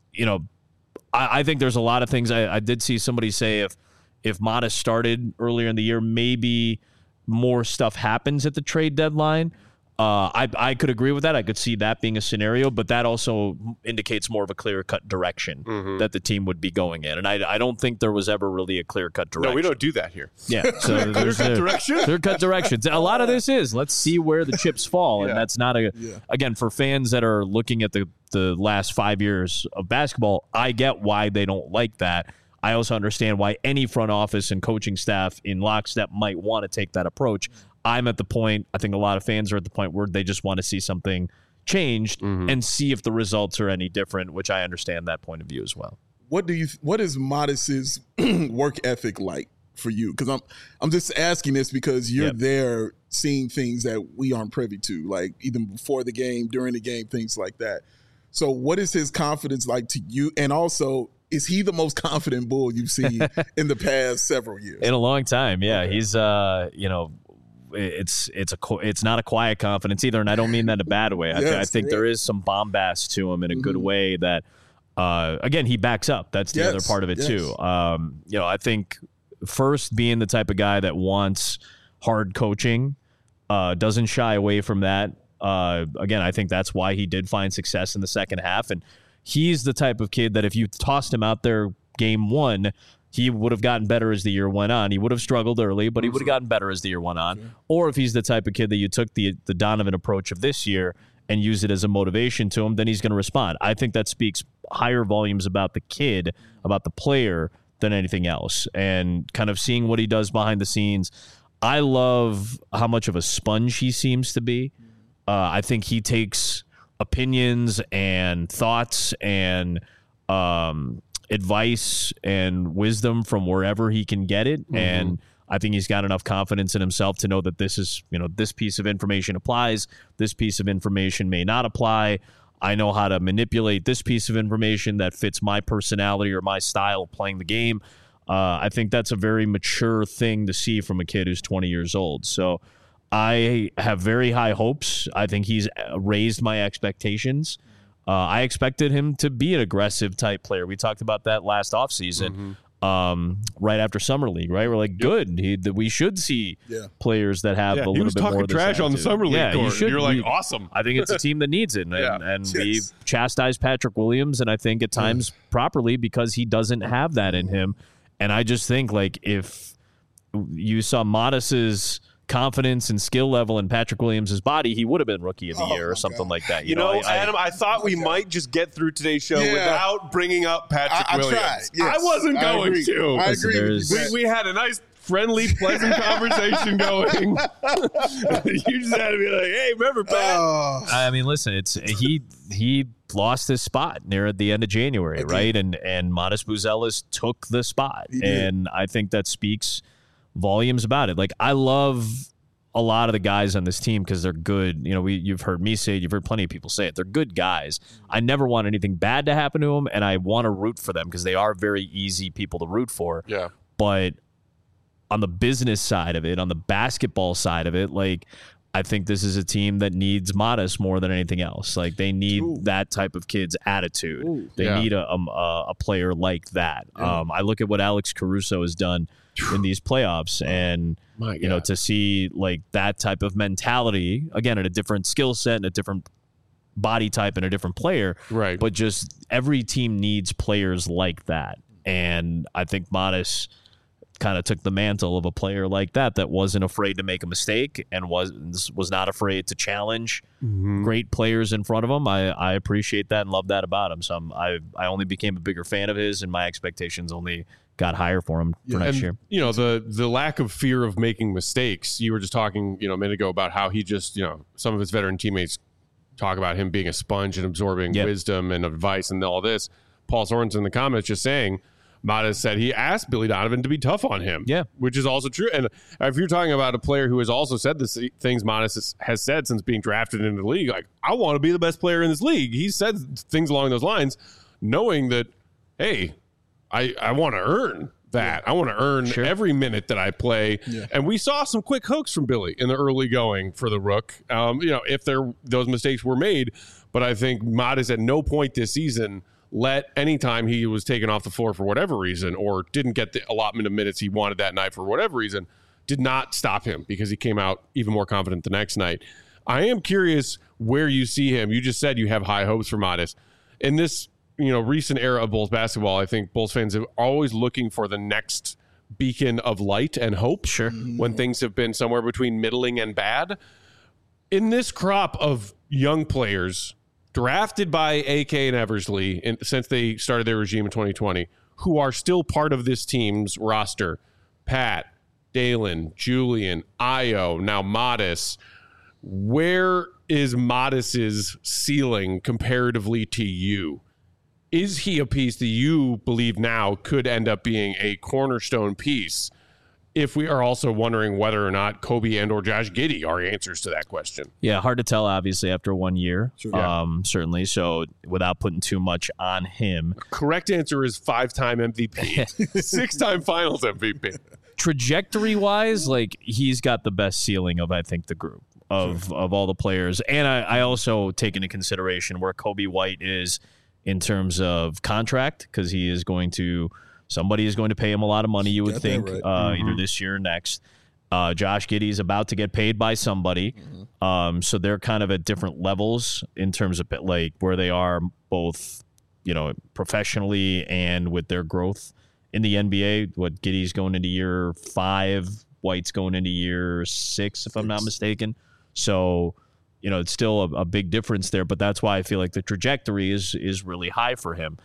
I think there's a lot of things. I did see somebody say if Modest started earlier in the year, maybe more stuff happens at the trade deadline. I could agree with that. I could see that being a scenario, but that also indicates more of a clear-cut direction that the team would be going in. And I don't think there was ever really a clear-cut direction. No, we don't do that here. Yeah. So clear-cut direction? Clear-cut directions. A lot of this is, let's see where the chips fall. And that's not again, for fans that are looking at the last 5 years of basketball, I get why they don't like that. I also understand why any front office and coaching staff in lockstep might want to take that approach. I'm at the point, I think a lot of fans are at the point where they just want to see something changed and see if the results are any different, which I understand that point of view as well. What is Modest's work ethic like for you? Because I'm just asking this because you're there seeing things that we aren't privy to, like even before the game, during the game, things like that. So what is his confidence like to you? And also, is he the most confident Bull you've seen in the past several years? In a long time, yeah. Okay. He's, it's not a quiet confidence either, and I don't mean that in a bad way. I think there is some bombast to him in a good way that, again, he backs up. That's the other part of it too. I think first being the type of guy that wants hard coaching, doesn't shy away from that. Again, I think that's why he did find success in the second half, and he's the type of kid that if you tossed him out there game one, he would have gotten better as the year went on. He would have struggled early, but he would have gotten better as the year went on. Or if he's the type of kid that you took the Donovan approach of this year and use it as a motivation to him, then he's going to respond. I think that speaks higher volumes about the kid, about the player, than anything else. And kind of seeing what he does behind the scenes, I love how much of a sponge he seems to be. I think he takes opinions and thoughts and advice and wisdom from wherever he can get it. And I think he's got enough confidence in himself to know that this is, this piece of information applies. This piece of information may not apply. I know how to manipulate this piece of information that fits my personality or my style of playing the game. I think that's a very mature thing to see from a kid who's 20 years old. So I have very high hopes. I think he's raised my expectations. I expected him to be an aggressive type player. We talked about that last offseason. right after Summer League, right? We're like, good. We should see players that have a little bit more of this trash on the Summer League court. You're like, awesome. I think it's a team that needs it. And we chastised Patrick Williams, and I think at times properly because he doesn't have that in him. And I just think, like, if you saw Modest's confidence and skill level in Patrick Williams' body, he would have been Rookie of the Year or something like that. You know, Adam, I thought we might just get through today's show without bringing up Patrick Williams. Tried. Yes. I wasn't going to. I agree. We had a nice, friendly, pleasant conversation going. You just had to be like, hey, remember Pat? I mean, listen, he lost his spot near the end of January, right? And Modest Buzelis took the spot. And I think that speaks volumes about it. Like, I love a lot of the guys on this team because they're good. You know, you've heard me say it. You've heard plenty of people say it. They're good guys. I never want anything bad to happen to them, and I want to root for them because they are very easy people to root for. Yeah. But on the business side of it, on the basketball side of it, like, I think this is a team that needs Modest more than anything else. Like, they need that type of kid's attitude. They need a player like that. I look at what Alex Caruso has done in these playoffs, and you know, to see like that type of mentality again at a different skill set and a different body type and a different player, right? But just every team needs players like that, and I think Modest kind of took the mantle of a player like that wasn't afraid to make a mistake and was not afraid to challenge great players in front of him. I appreciate that and love that about him. So I only became a bigger fan of his, and my expectations only got higher for him for next year. You know, the lack of fear of making mistakes. You were just talking, you know, a minute ago about how he just, you know, some of his veteran teammates talk about him being a sponge and absorbing wisdom and advice and all this. Paul Sorensen in the comments just saying, Modest said he asked Billy Donovan to be tough on him, which is also true. And if you're talking about a player who has also said the things Modest has said since being drafted into the league, like, I want to be the best player in this league. He said things along those lines, knowing that, hey, I want to earn that. I want to earn every minute that I play. Yeah. And we saw some quick hooks from Billy in the early going for the Rook. You know, if those mistakes were made, but I think Modest at no point this season let any time he was taken off the floor for whatever reason or didn't get the allotment of minutes he wanted that night for whatever reason did not stop him because he came out even more confident the next night. I am curious where you see him. You just said you have high hopes for Modest. In this, you know, recent era of Bulls basketball, I think Bulls fans are always looking for the next beacon of light and hope when things have been somewhere between middling and bad. In this crop of young players drafted by AK and Eversley since they started their regime in 2020, who are still part of this team's roster, Pat, Dalen, Julian, Ayo, now Modest, where is Modest's ceiling comparatively to you? Is he a piece that you believe now could end up being a cornerstone piece? If we are also wondering whether or not Kobe and or Josh Giddey are answers to that question. Yeah, hard to tell, obviously, after 1 year, certainly. So without putting too much on him. Correct answer is 5-time MVP, 6-time finals MVP. Trajectory-wise, like, he's got the best ceiling of, I think, the group of all the players. And I also take into consideration where Kobe White is in terms of contract, because somebody is going to pay him a lot of money, you would think, either this year or next. Josh Giddey is about to get paid by somebody. So they're kind of at different levels in terms of like where they are both, you know, professionally and with their growth in the NBA. What Giddey's going into year 5, White's going into year 6, if I'm not mistaken. So, you know, it's still a big difference there, but that's why I feel like the trajectory is really high for him.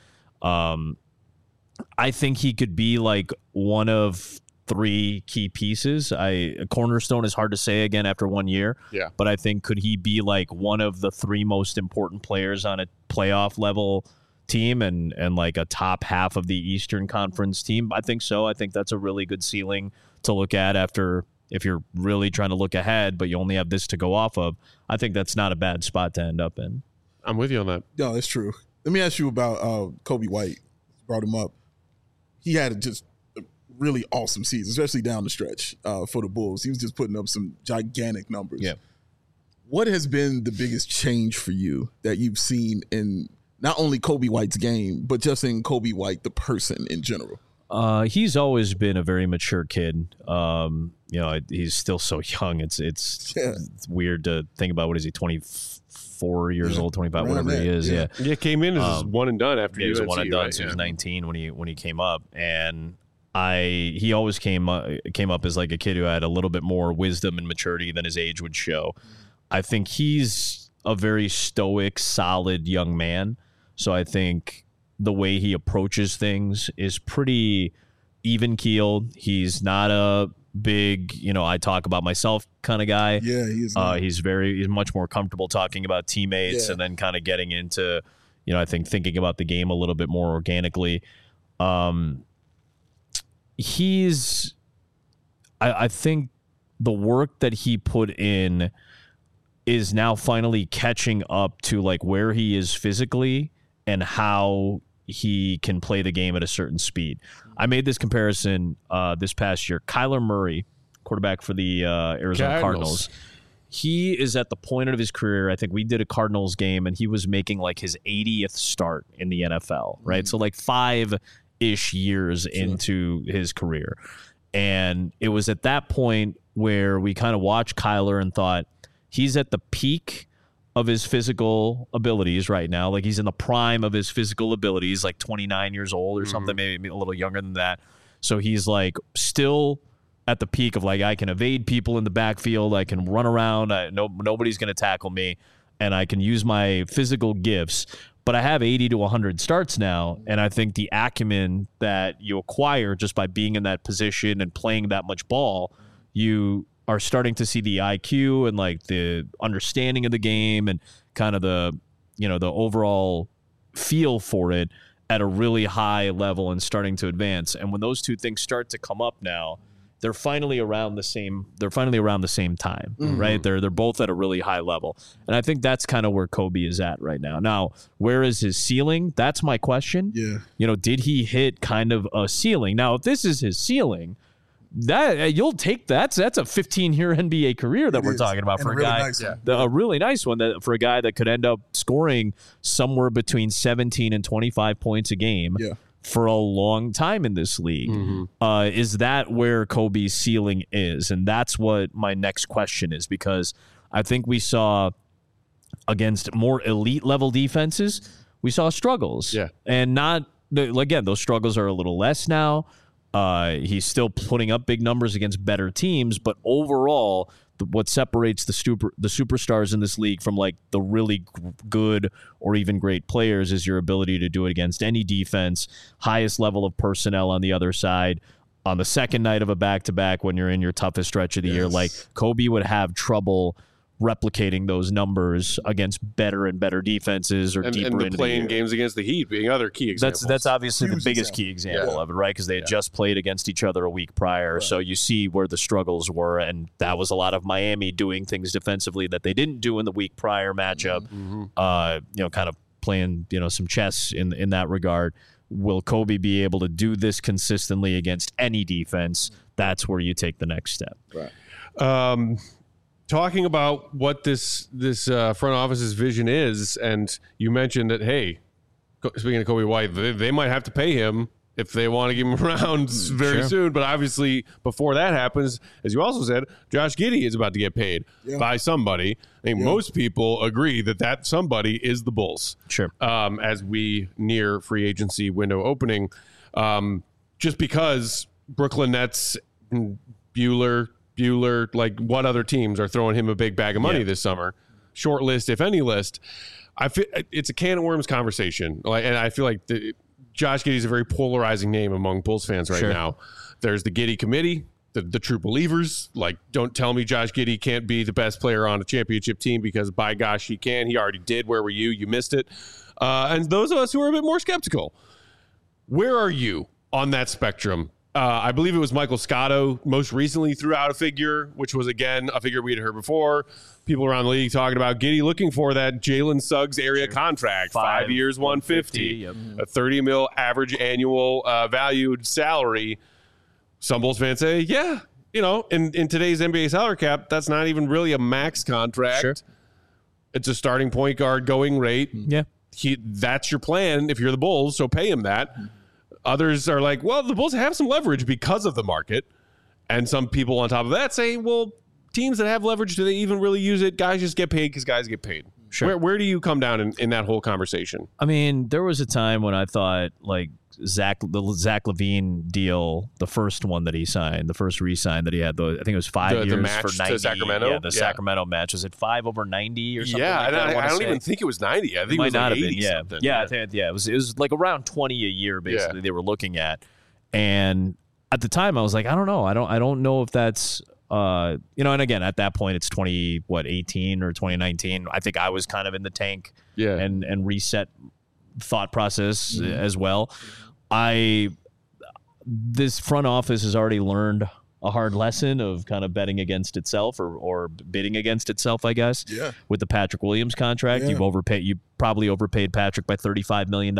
I think he could be like one of 3 key pieces. A cornerstone is hard to say again after 1 year. Yeah. But I think could he be like one of the 3 most important players on a playoff level team and like a top half of the Eastern Conference team? I think so. I think that's a really good ceiling to look at after, if you're really trying to look ahead, but you only have this to go off of. I think that's not a bad spot to end up in. I'm with you on that. No, that's true. Let me ask you about Kobe White. Brought him up. He had just a really awesome season, especially down the stretch for the Bulls. He was just putting up some gigantic numbers. Yeah. What has been the biggest change for you that you've seen in not only Kobe White's game, but just in Kobe White, the person in general? He's always been a very mature kid. He's still so young. It's weird to think about. What is he, 24 years old, 25, whatever he is. Yeah. Came in as one and done after he was UNC, one and done. right? So he was 19 when he came up, and he always came up as like a kid who had a little bit more wisdom and maturity than his age would show. I think he's a very stoic, solid young man. So I think the way he approaches things is pretty even keeled. He's not a big, I talk about myself kind of guy. Yeah, he's he's much more comfortable talking about teammates and then kind of getting into, I think thinking about the game a little bit more organically. I think the work that he put in is now finally catching up to like where he is physically and how he can play the game at a certain speed. I made this comparison this past year. Kyler Murray, quarterback for the Arizona Cardinals. He is at the point of his career. I think we did a Cardinals game and he was making like his 80th start in the NFL, right? So like 5-ish years into his career. And it was at that point where we kind of watched Kyler and thought, he's at the peak of his physical abilities right now. Like he's in the prime of his physical abilities, like 29 years old or something, maybe a little younger than that. So he's like still at the peak of like, I can evade people in the backfield. I can run around. Nobody's going to tackle me. And I can use my physical gifts. But I have 80 to 100 starts now. And I think the acumen that you acquire just by being in that position and playing that much ball, you are starting to see the IQ and like the understanding of the game and kind of the overall feel for it at a really high level and starting to advance. And when those two things start to come up now, they're finally around the same time, right? They're both at a really high level. And I think that's kind of where Kobe is at right now. Now, where is his ceiling? That's my question. Yeah. Did he hit kind of a ceiling? Now, if this is his ceiling, that you'll take that's a 15-year NBA career that we're talking about for a guy, a really nice one that for a guy that could end up scoring somewhere between 17 and 25 points a game for a long time in this league. Is that where Kobe's ceiling is? And that's what my next question is, because I think we saw against more elite level defenses, we saw struggles. And again, those struggles are a little less now. He's still putting up big numbers against better teams, but overall, what separates the superstars in this league from like the really good or even great players is your ability to do it against any defense, highest level of personnel on the other side. On the second night of a back-to-back when you're in your toughest stretch of the year, like Kobe would have trouble replicating those numbers against better and better defenses or deeper into playing games against the Heat being other key examples. That's obviously the biggest key example of it, right? Because they had just played against each other a week prior. So you see where the struggles were, and that was a lot of Miami doing things defensively that they didn't do in the week prior matchup. Kind of playing, some chess in that regard. Will Kobe be able to do this consistently against any defense? That's where you take the next step. Right. Talking about what this front office's vision is, and you mentioned that, hey, speaking of Kobe White, they might have to pay him if they want to keep him around very soon. But obviously, before that happens, as you also said, Josh Giddey is about to get paid by somebody. I think most people agree that somebody is the Bulls. As we near free agency window opening, just because Brooklyn Nets, Bueller, like what other teams are throwing him a big bag of money this summer? Short list, if any list. I feel it's a can of worms conversation. And I feel like Josh Giddey is a very polarizing name among Bulls fans right now. There's the Giddey committee, the true believers. Like, don't tell me Josh Giddey can't be the best player on a championship team, because by gosh, he can. He already did. Where were you? You missed it. And those of us who are a bit more skeptical, where are you on that spectrum? I believe it was Michael Scotto most recently threw out a figure, which was, again, a figure we had heard before. People around the league talking about Giddey looking for that Jalen Suggs area contract, 5 years, 150, a $30 million average annual valued salary. Some Bulls fans say, in today's NBA salary cap, that's not even really a max contract. It's a starting point guard going rate. That's your plan if you're the Bulls, so pay him that. Others are like, well, the Bulls have some leverage because of the market. And some people on top of that say, well, teams that have leverage, do they even really use it? Guys just get paid because guys get paid. Sure. Where do you come down in that whole conversation? I mean, there was a time when I thought like the Zach LaVine deal, the first one that he signed, the first re-sign that he had, I think it was 5 years match for 90. To Sacramento? Yeah, the Sacramento match. Was it 5 over 90 or something? Yeah, like that, I don't even think it was 90. I think it might not have been. Yeah, something. Yeah, I think, it was like around 20 a year basically they were looking at, and at the time I was like, I don't know, I don't know if that's. And again, at that point, it's 2018 or 2019. I think I was kind of in the tank and reset thought process as well. This front office has already learned a hard lesson of kind of betting against itself or bidding against itself, I guess. Yeah. With the Patrick Williams contract, you probably overpaid Patrick by $35 million,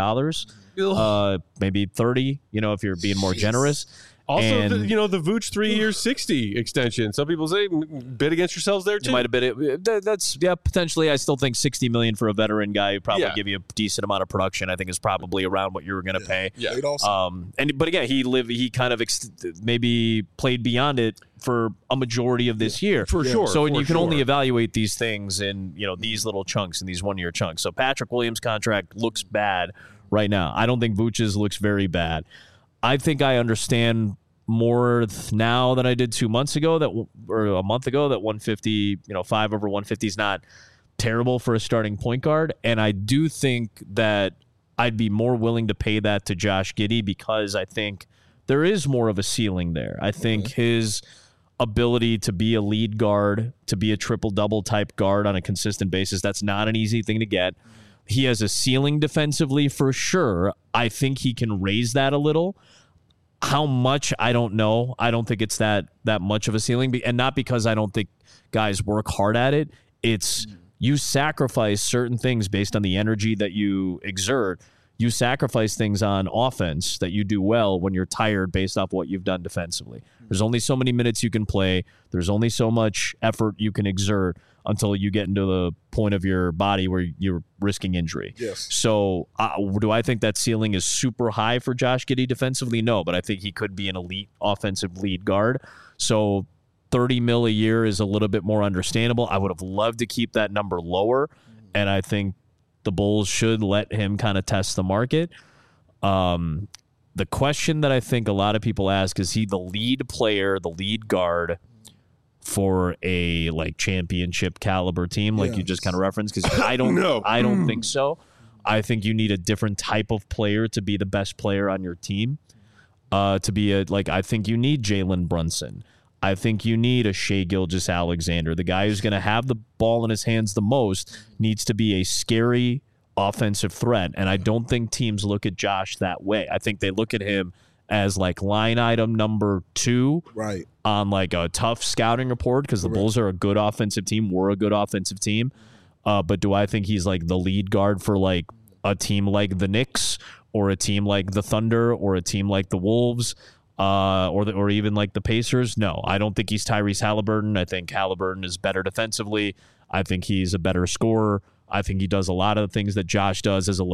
maybe 30. If you're being more generous. Also, the Vooch 3 years 60 extension. Some people say bid against yourselves there too. You might have bid it. That's potentially. I still think $60 million for a veteran guy who probably give you a decent amount of production. I think is probably around what you were going to pay. Yeah. But again, he kind of maybe played beyond it for a majority of this year. For sure. So you can only evaluate these things in these little chunks and these 1 year chunks. So Patrick Williams' contract looks bad right now. I don't think Vooch's looks very bad. I think I understand more now than I did 2 months ago or a month ago that 150, 5 over 150 is not terrible for a starting point guard. And I do think that I'd be more willing to pay that to Josh Giddey because I think there is more of a ceiling there. I think his ability to be a lead guard, to be a triple-double type guard on a consistent basis, that's not an easy thing to get. He has a ceiling defensively for sure. I think he can raise that a little. How much, I don't know. I don't think it's that much of a ceiling. And not because I don't think guys work hard at it. It's you sacrifice certain things based on the energy that you exert. You sacrifice things on offense that you do well when you're tired based off what you've done defensively. There's only so many minutes you can play. There's only so much effort you can exert until you get into the point of your body where you're risking injury. Yes. So do I think that ceiling is super high for Josh Giddey defensively? No, but I think he could be an elite offensive lead guard. So $30 million a year is a little bit more understandable. I would have loved to keep that number lower, and I think the Bulls should let him kind of test the market. The question that I think a lot of people ask, is he the lead player, the lead guard for a championship caliber team like you just kind of referenced? Because I don't I don't think so. I think you need a different type of player to be the best player on your team. I think you need Jalen Brunson. I think you need a Shai Gilgeous-Alexander. The guy who's going to have the ball in his hands the most needs to be a scary offensive threat. And I don't think teams look at Josh that way. I think they look at him as line item number 2 on a tough scouting report because the Bulls are a good offensive team. We're a good offensive team. But do I think he's the lead guard for a team like the Knicks or a team like the Thunder or a team like the Wolves? Or even the Pacers? No, I don't think he's Tyrese Halliburton. I think Halliburton is better defensively. I think he's a better scorer. I think he does a lot of the things that Josh does at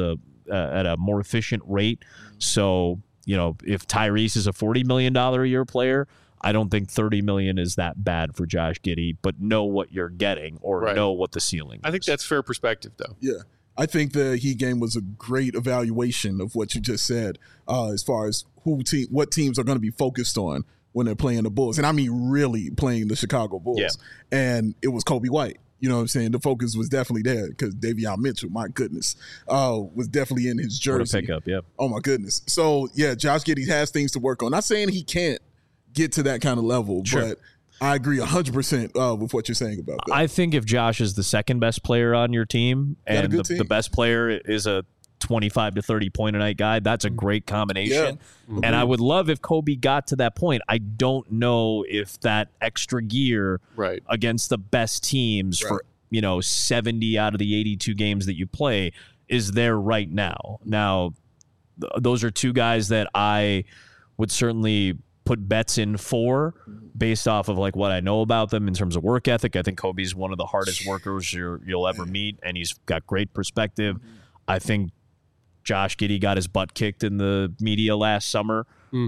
a more efficient rate. So, if Tyrese is a $40 million a year player, I don't think $30 million is that bad for Josh Giddey, but know what you're getting or know what the ceiling is. I think that's fair perspective, though. Yeah. I think the Heat game was a great evaluation of what you just said, as far as what teams are going to be focused on when they're playing the Bulls. And I mean really playing the Chicago Bulls. Yeah. And it was Kobe White. You know what I'm saying? The focus was definitely there because Davion Mitchell, my goodness, was definitely in his jersey. What a pickup, yep. Oh, my goodness. So, yeah, Josh Giddey has things to work on. Not saying he can't get to that kind of level, but I agree 100% with what you're saying about that. I think if Josh is the second best player on your team and the best player is a 25 to 30 point a night guy, that's a great combination. Yeah. Mm-hmm. And I would love if Kobe got to that point. I don't know if that extra gear against the best teams for 70 out of the 82 games that you play is there right now. Now, those are two guys that I would certainly put bets in for based off of what I know about them in terms of work ethic. I think Kobe's one of the hardest workers you'll ever meet, and he's got great perspective. I think Josh Giddey got his butt kicked in the media last summer,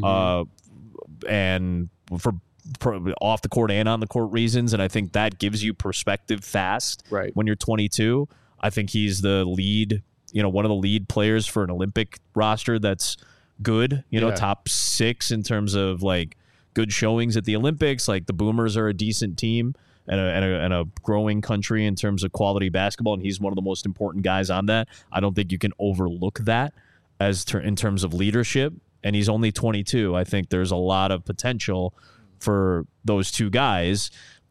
and for off the court and on the court reasons, and I think that gives you perspective fast when you're 22. I think he's the lead, one of the lead players for an Olympic roster that's good, top 6 in terms of like good showings at the Olympics. Like the Boomers are a decent team and a growing country in terms of quality basketball, and he's one of the most important guys on that. I don't think you can overlook that in terms of leadership, and he's only 22. I think there's a lot of potential for those two guys,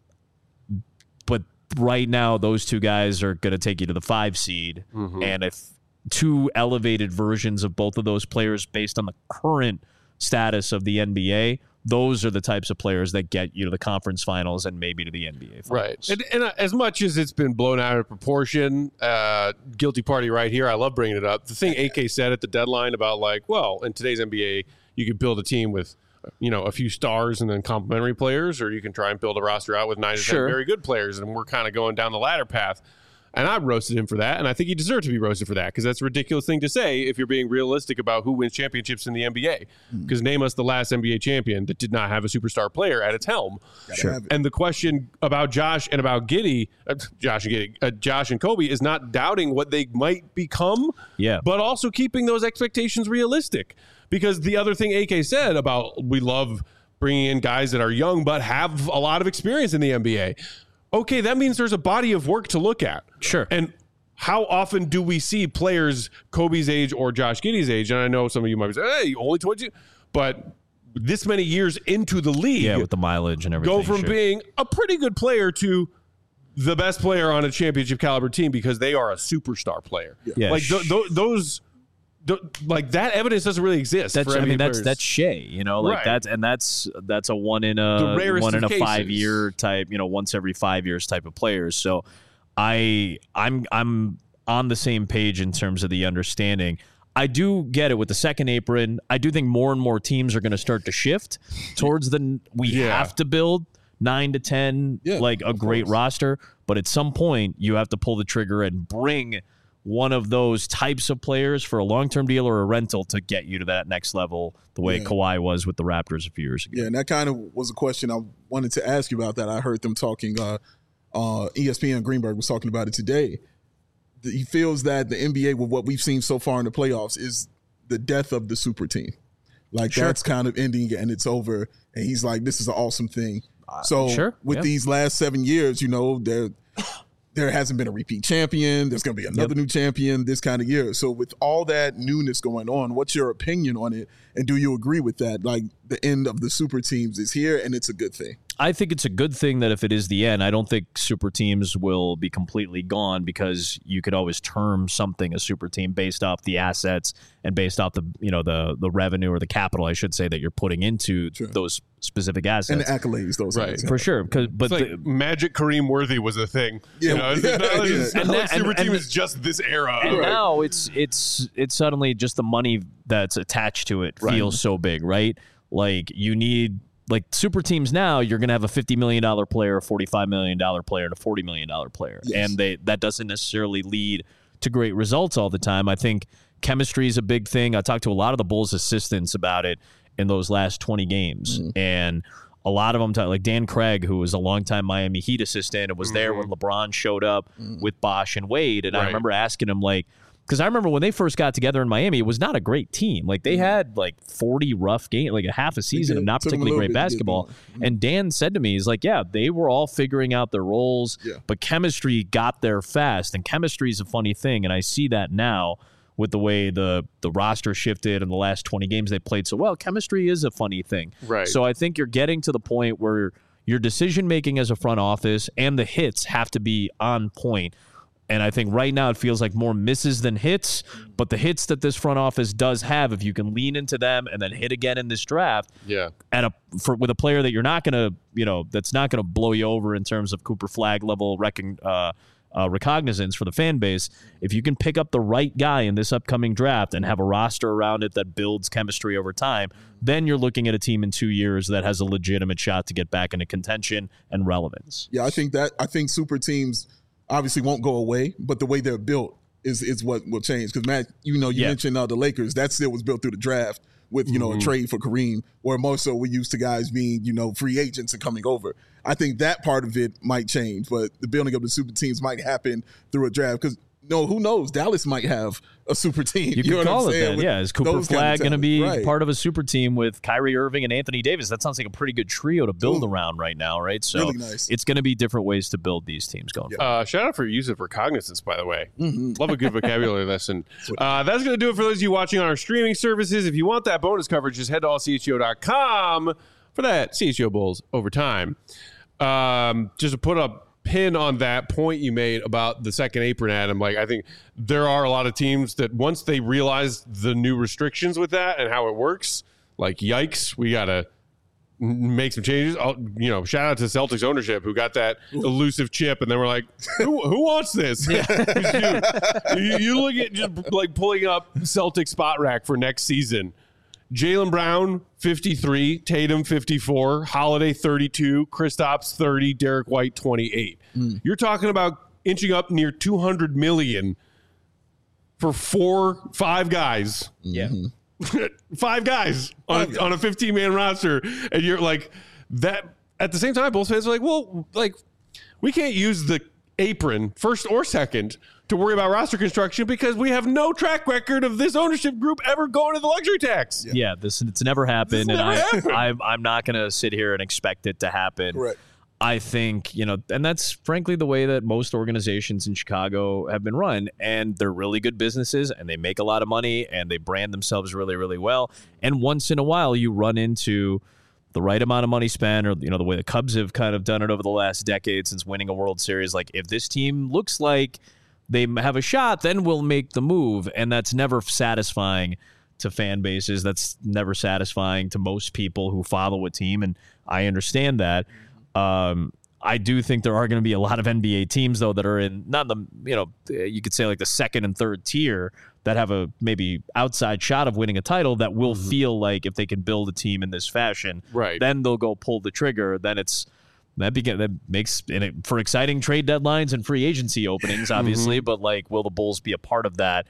but right now those two guys are going to take you to the 5 seed, and if two elevated versions of both of those players based on the current status of the NBA, those are the types of players that get you to the conference finals and maybe to the NBA finals. Right. And as much as it's been blown out of proportion, guilty party right here, I love bringing it up. The thing AK said at the deadline about like, well, in today's NBA, you can build a team with, a few stars and then complementary players, or you can try and build a roster out with 9 to 10 very good players. And we're kind of going down the latter path. And I roasted him for that, and I think he deserved to be roasted for that because that's a ridiculous thing to say if you're being realistic about who wins championships in the NBA. Because name us the last NBA champion that did not have a superstar player at its helm. And the question about Josh and about Josh and Kobe is not doubting what they might become, but also keeping those expectations realistic. Because the other thing AK said about we love bringing in guys that are young but have a lot of experience in the NBA. Okay, that means there's a body of work to look at. Sure. And how often do we see players Kobe's age or Josh Giddey's age? And I know some of you might say, hey, only 22. But this many years into the league. With the mileage and everything. Go from being a pretty good player to the best player on a championship caliber team because they are a superstar player. Yeah. Like those... Like that evidence doesn't really exist. That's Shea, that's a one in a 5 year type, once every 5 years type of players. So I'm on the same page in terms of the understanding. I do get it with the second apron. I do think more and more teams are going to start to shift towards we have to build 9 to 10 like a great roster, but at some point you have to pull the trigger and bring one of those types of players for a long-term deal or a rental to get you to that next level the way Kawhi was with the Raptors a few years ago. Yeah, and that kind of was a question I wanted to ask you about that. I heard them talking, ESPN Greenberg was talking about it today. He feels that the NBA, with what we've seen so far in the playoffs, is the death of the super team. Like that's kind of ending and it's over. And he's like, this is an awesome thing. So with these last 7 years, there hasn't been a repeat champion. There's going to be another new champion this kind of year. So with all that newness going on, what's your opinion on it? And do you agree with that? Like the end of the super teams is here and it's a good thing. I think it's a good thing that if it is the end, I don't think super teams will be completely gone because you could always term something a super team based off the assets and based off the revenue or the capital, I should say, that you're putting into those specific assets. And the accolades, those guys. For sure. But like Magic Kareem Worthy was a thing. Yeah. Super team is just this era. And now it's suddenly just the money that's attached to it feels so big, right? Like you need... Like super teams now, you're going to have a $50 million player, a $45 million player, and a $40 million player. Yes. And that doesn't necessarily lead to great results all the time. I think chemistry is a big thing. I talked to a lot of the Bulls assistants about it in those last 20 games. And a lot of them, like Dan Craig, who was a longtime Miami Heat assistant and was there when LeBron showed up with Bosh and Wade. And I remember asking him, like, because I remember when they first got together in Miami, it was not a great team. Like they had like 40 rough games, like a half a season of not particularly great basketball. And Dan said to me, he's like, yeah, they were all figuring out their roles, but chemistry got there fast. And chemistry is a funny thing. And I see that now with the way the roster shifted in the last 20 games they played so well. Chemistry is a funny thing. Right. So I think you're getting to the point where your decision-making as a front office and the hits have to be on point. And I think right now it feels like more misses than hits, but the hits that this front office does have, if you can lean into them and then hit again in this draft, with a player that you're not going to, that's not going to blow you over in terms of Cooper Flagg level recognizance for the fan base, if you can pick up the right guy in this upcoming draft and have a roster around it that builds chemistry over time, then you're looking at a team in 2 years that has a legitimate shot to get back into contention and relevance. Yeah, I think super teams obviously won't go away, but the way they're built is what will change. Because Matt, you mentioned the Lakers. That still was built through the draft with a trade for Kareem, or more so we're used to guys being free agents and coming over. I think that part of it might change, but the building of the super teams might happen through a draft because. No, who knows? Dallas might have a super team. You could call it that. Yeah, is Cooper Flag going to be part of a super team with Kyrie Irving and Anthony Davis? That sounds like a pretty good trio to build around right now, right? So really nice. It's going to be different ways to build these teams going forward. Shout out for your use of recognizance, by the way. Love a good vocabulary lesson. That's going to do it for those of you watching on our streaming services. If you want that bonus coverage, just head to allcho.com for that CHGO Bulls Overtime. Just to put up pin on that point you made about the second apron, Adam. I think there are a lot of teams that once they realize the new restrictions with that and how it works, yikes, we gotta make some changes. Shout out to Celtics ownership who got that elusive chip, and then we're like, who wants this? You look at just pulling up Celtic spot rack for next season. Jaylen Brown, 53, Tatum, 54, Holiday, 32, Kristaps, 30, Derek White, 28. You're talking about inching up near $200 million for 5 guys. Yeah. 5 guys on a 15-man roster. And you're like, that. At the same time, both fans are like, we can't use the apron, first or second, to worry about roster construction because we have no track record of this ownership group ever going to the luxury tax. Yeah, it's never happened, I'm not going to sit here and expect it to happen. Correct. I think, and that's frankly the way that most organizations in Chicago have been run, and they're really good businesses, and they make a lot of money, and they brand themselves really, really well, and once in a while you run into the right amount of money spent, or the way the Cubs have kind of done it over the last decade since winning a World Series. If this team looks like they have a shot, then we'll make the move. And that's never satisfying to fan bases. That's never satisfying to most people who follow a team. And I understand that. I do think there are going to be a lot of NBA teams, though, that are in not the, you could say the second and third tier that have a maybe outside shot of winning a title that will feel like if they can build a team in this fashion, then they'll go pull the trigger. Then that makes for exciting trade deadlines and free agency openings, obviously. But will the Bulls be a part of that,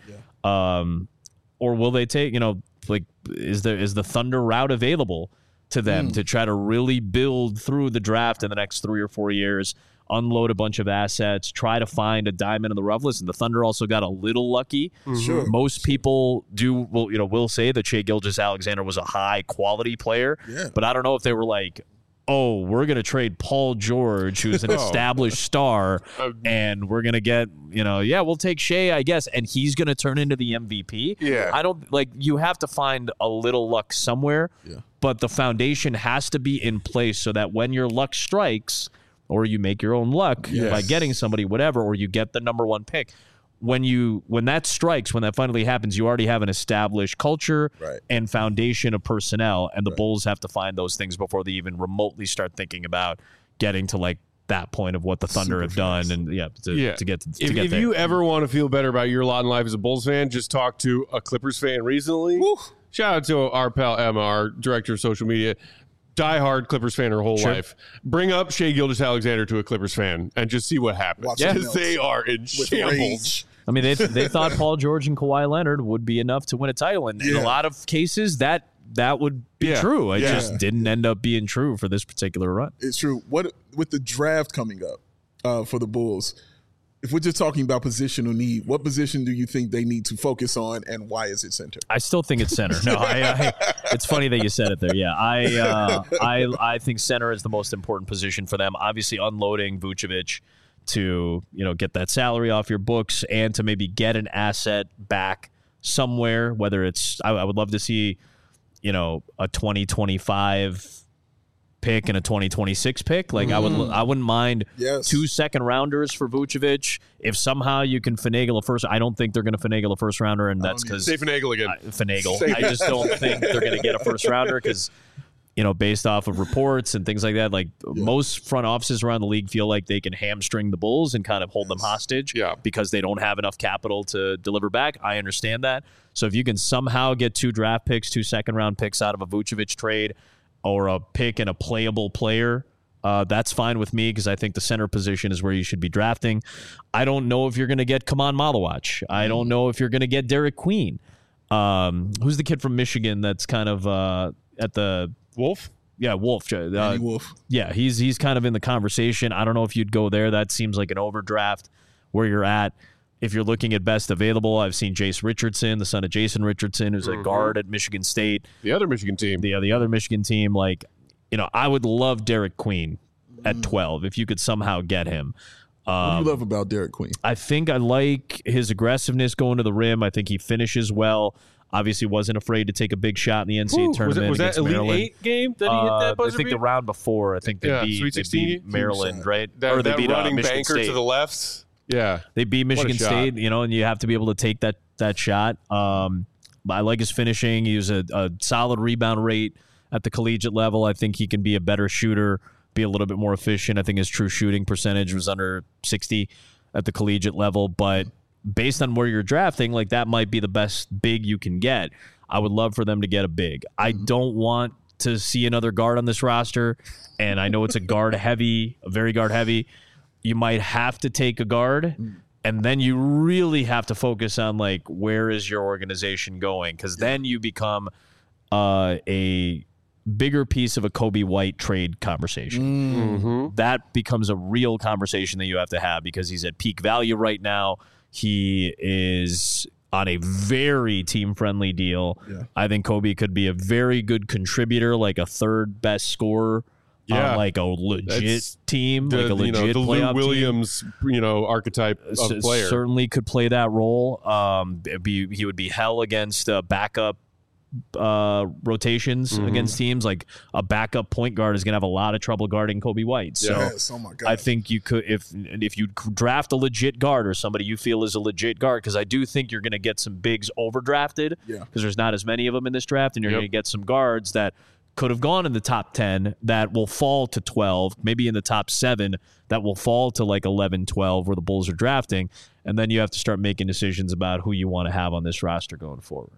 or will they take? Is the Thunder route available to them to try to really build through the draft in the next 3 or 4 years, unload a bunch of assets, try to find a diamond in the rough? Listen, the Thunder also got a little lucky. Sure. Most people will say that Shai Gilgeous-Alexander was a high quality player, but I don't know if they were we're going to trade Paul George, who's an established star, and we're going to get, we'll take Shai, I guess, and he's going to turn into the MVP. Yeah. I don't you have to find a little luck somewhere, but the foundation has to be in place so that when your luck strikes, or you make your own luck by getting somebody, whatever, or you get the number 1 pick. When that strikes, when that finally happens, you already have an established culture and foundation of personnel, and the Bulls have to find those things before they even remotely start thinking about getting to that point of what the Thunder have done, and to get if there. you ever want to feel better about your lot in life as a Bulls fan, just talk to a Clippers fan recently. Woo. Shout out to our pal Emma, our director of social media. Diehard Clippers fan her whole life. Bring up Shai Gilgeous-Alexander to a Clippers fan and just see what happens. Because they are in shambles. I mean, they thought Paul George and Kawhi Leonard would be enough to win a title, and in a lot of cases that would be true. It just didn't end up being true for this particular run. It's true. What with the draft coming up for the Bulls, if we're just talking about positional need, what position do you think they need to focus on, and why is it center? I still think it's center. No, it's funny that you said it there. Yeah, I think center is the most important position for them. Obviously, unloading Vucevic to get that salary off your books and to maybe get an asset back somewhere. Whether it's I would love to see a 2025 pick and a 2026 pick. I wouldn't mind 2 second rounders for Vucevic if somehow you can finagle a first. I don't think they're going to finagle a first rounder, and that's because say finagle again. I just don't think they're going to get a first rounder because based off of reports and things like that, most front offices around the league feel like they can hamstring the Bulls and kind of hold them hostage because they don't have enough capital to deliver back. I understand that. So if you can somehow get 2 draft picks, 2 second round picks out of a Vucevic trade, or a pick and a playable player That's fine with me because I think the center position is where you should be drafting. I don't know if you're going to get Kaman Malawach. I don't know if you're going to get Derek Queen. Who's the kid from Michigan that's kind of at the Wolf? Yeah, Wolf. Wolf. Yeah, he's kind of in the conversation. I don't know if you'd go there. That seems like an overdraft where you're at. If you're looking at best available, I've seen Jace Richardson, the son of Jason Richardson, who's a guard at Michigan State. The other Michigan team. The other Michigan team. Like, I would love Derek Queen at 12 if you could somehow get him. What do you love about Derek Queen? I think I like his aggressiveness going to the rim. I think he finishes well. Obviously wasn't afraid to take a big shot in the NCAA tournament. Was that Elite Maryland. 8 game that he hit that buzzer I think beat? the round before. I think they beat Maryland, right? Or they beat running Michigan banker State. to the left. Yeah. They beat Michigan State, and you have to be able to take that shot. I like his finishing. He was a solid rebound rate at the collegiate level. I think he can be a better shooter, be a little bit more efficient. I think his true shooting percentage was under 60 at the collegiate level, but based on where you're drafting, like that might be the best big you can get. I would love for them to get a big. I don't want to see another guard on this roster, and I know it's a very guard heavy. You might have to take a guard, and then you really have to focus on like where is your organization going, because then you become a bigger piece of a Kobe White trade conversation. That becomes a real conversation that you have to have because he's at peak value right now. He is on a very team-friendly deal. Yeah. I think Kobe could be a very good contributor, like a third best scorer. Yeah, like a legit team, like a legit the playoff Lou Williams, archetype of player. Certainly could play that role. He would be hell against backup rotations against teams. Like a backup point guard is going to have a lot of trouble guarding Kobe White. So oh my God. I think you could, if you draft a legit guard or somebody you feel is a legit guard, because I do think you're going to get some bigs overdrafted because there's not as many of them in this draft, and you're going to get some guards that could have gone in the top 10 that will fall to 12, maybe in the top 7 that will fall to like 11, 12 where the Bulls are drafting. And then you have to start making decisions about who you want to have on this roster going forward.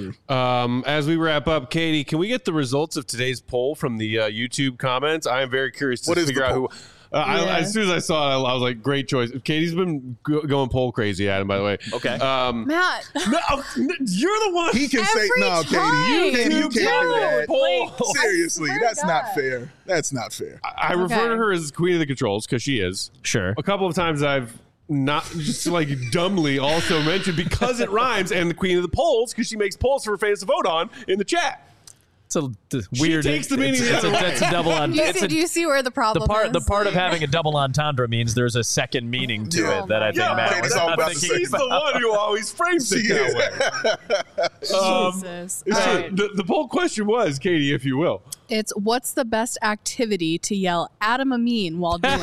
As we wrap up, Katie, can we get the results of today's poll from the YouTube comments? I am very curious to figure out who. As soon as I saw it, I was like, great choice. Katie's been going poll crazy, Adam, by the way. Okay. Matt. No, you're the one. He can say, no, Katie, you can't do that. Poll. Seriously, that's not fair. That's not fair. I refer to her as Queen of the Controls because she is. Sure. A couple of times I've not just like dumbly also mentioned because it rhymes, and the Queen of the Polls because she makes polls for fans to vote on in the chat. It's a weird. She takes the meaning it's a double entendre. Do you see where the problem is? The part of having a double entendre means there's a second meaning to it that I think Matt was not thinking He's the one who always frames it that way. Jesus. The poll question was, Katie, if you will. It's what's the best activity to yell Adam Amin while doing?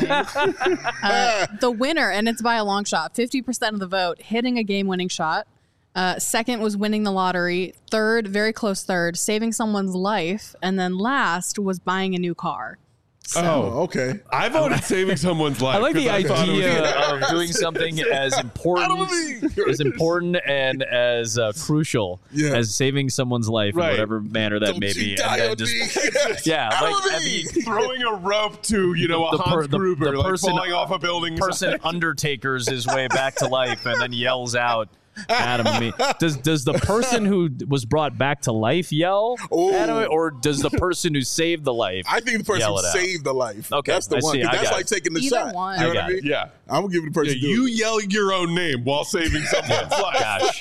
The winner, and it's by a long shot, 50% of the vote, hitting a game-winning shot. Second was winning the lottery. Third, very close third, saving someone's life. And then last was buying a new car. So, okay. I voted saving someone's life. I like the idea of doing something as important and as crucial as saving someone's life in whatever manner that may be. And then just, throwing a rope to Hans Gruber, like falling off a building. Person undertakers his way back to life and then yells out, Adam Amin. Does the person who was brought back to life yell Adam, or does the person who saved the life? I think the person who saved the life. Okay, that's the one. That's like taking the shot. One. You know what I mean? Yeah, I'm gonna give the person. You yell your own name while saving someone's life. Gosh.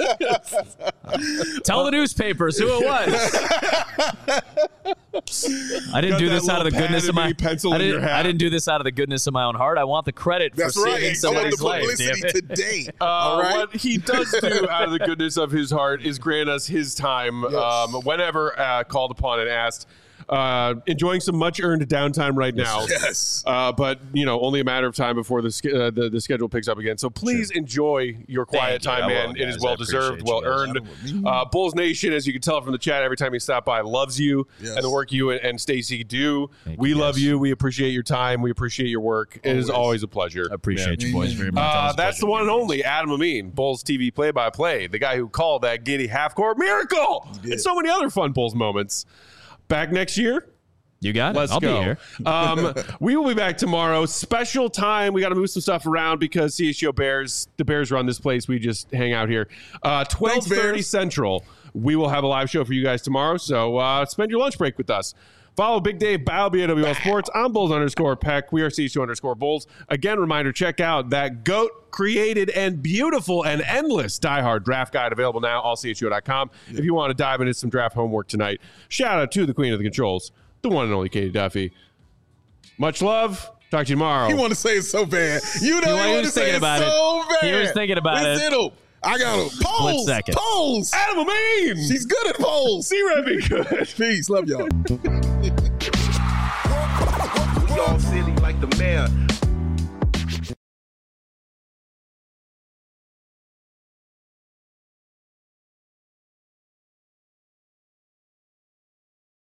Tell the newspapers who it was. I didn't do this out of the goodness of my I didn't do this out of the goodness of my own heart. I want the credit for saving somebody's life. Publicity today. All right. What he does do out of the goodness of his heart is grant us his time whenever called upon and asked. Enjoying some much earned downtime right now. Yes. But only a matter of time before the schedule picks up again. So please enjoy your quiet time, man. It is well deserved, well earned. Bulls Nation, as you can tell from the chat, every time you stop by, loves you and the work you and Stacey do. We love you. We appreciate your time. We appreciate your work. It is always a pleasure. I appreciate you boys very much. That's the one and only Adam Amin, Bulls TV play-by-play, the guy who called that giddy half-court miracle and so many other fun Bulls moments. Back next year, You got it. Let's I'll go. be here. We will be back tomorrow. Special time. We got to move some stuff around because CHGO Bears, the Bears run this place. We just hang out here. 12:30 Central. We will have a live show for you guys tomorrow. So spend your lunch break with us. Follow Big Dave Balby at WL Sports. I'm Bulls_Peck. We are CHGO_Bulls. Again, reminder, check out that GOAT created and beautiful and endless diehard draft guide available now, allchgo.com. If you want to dive into some draft homework tonight. Shout out to the queen of the controls, the one and only Katie Duffy. Much love. Talk to you tomorrow. He want to say it so bad. You know he want to say it so bad. He was thinking about it. I got him. Polls. Adam Amin. She's good at polls. C-Reb be good. Peace. Love y'all.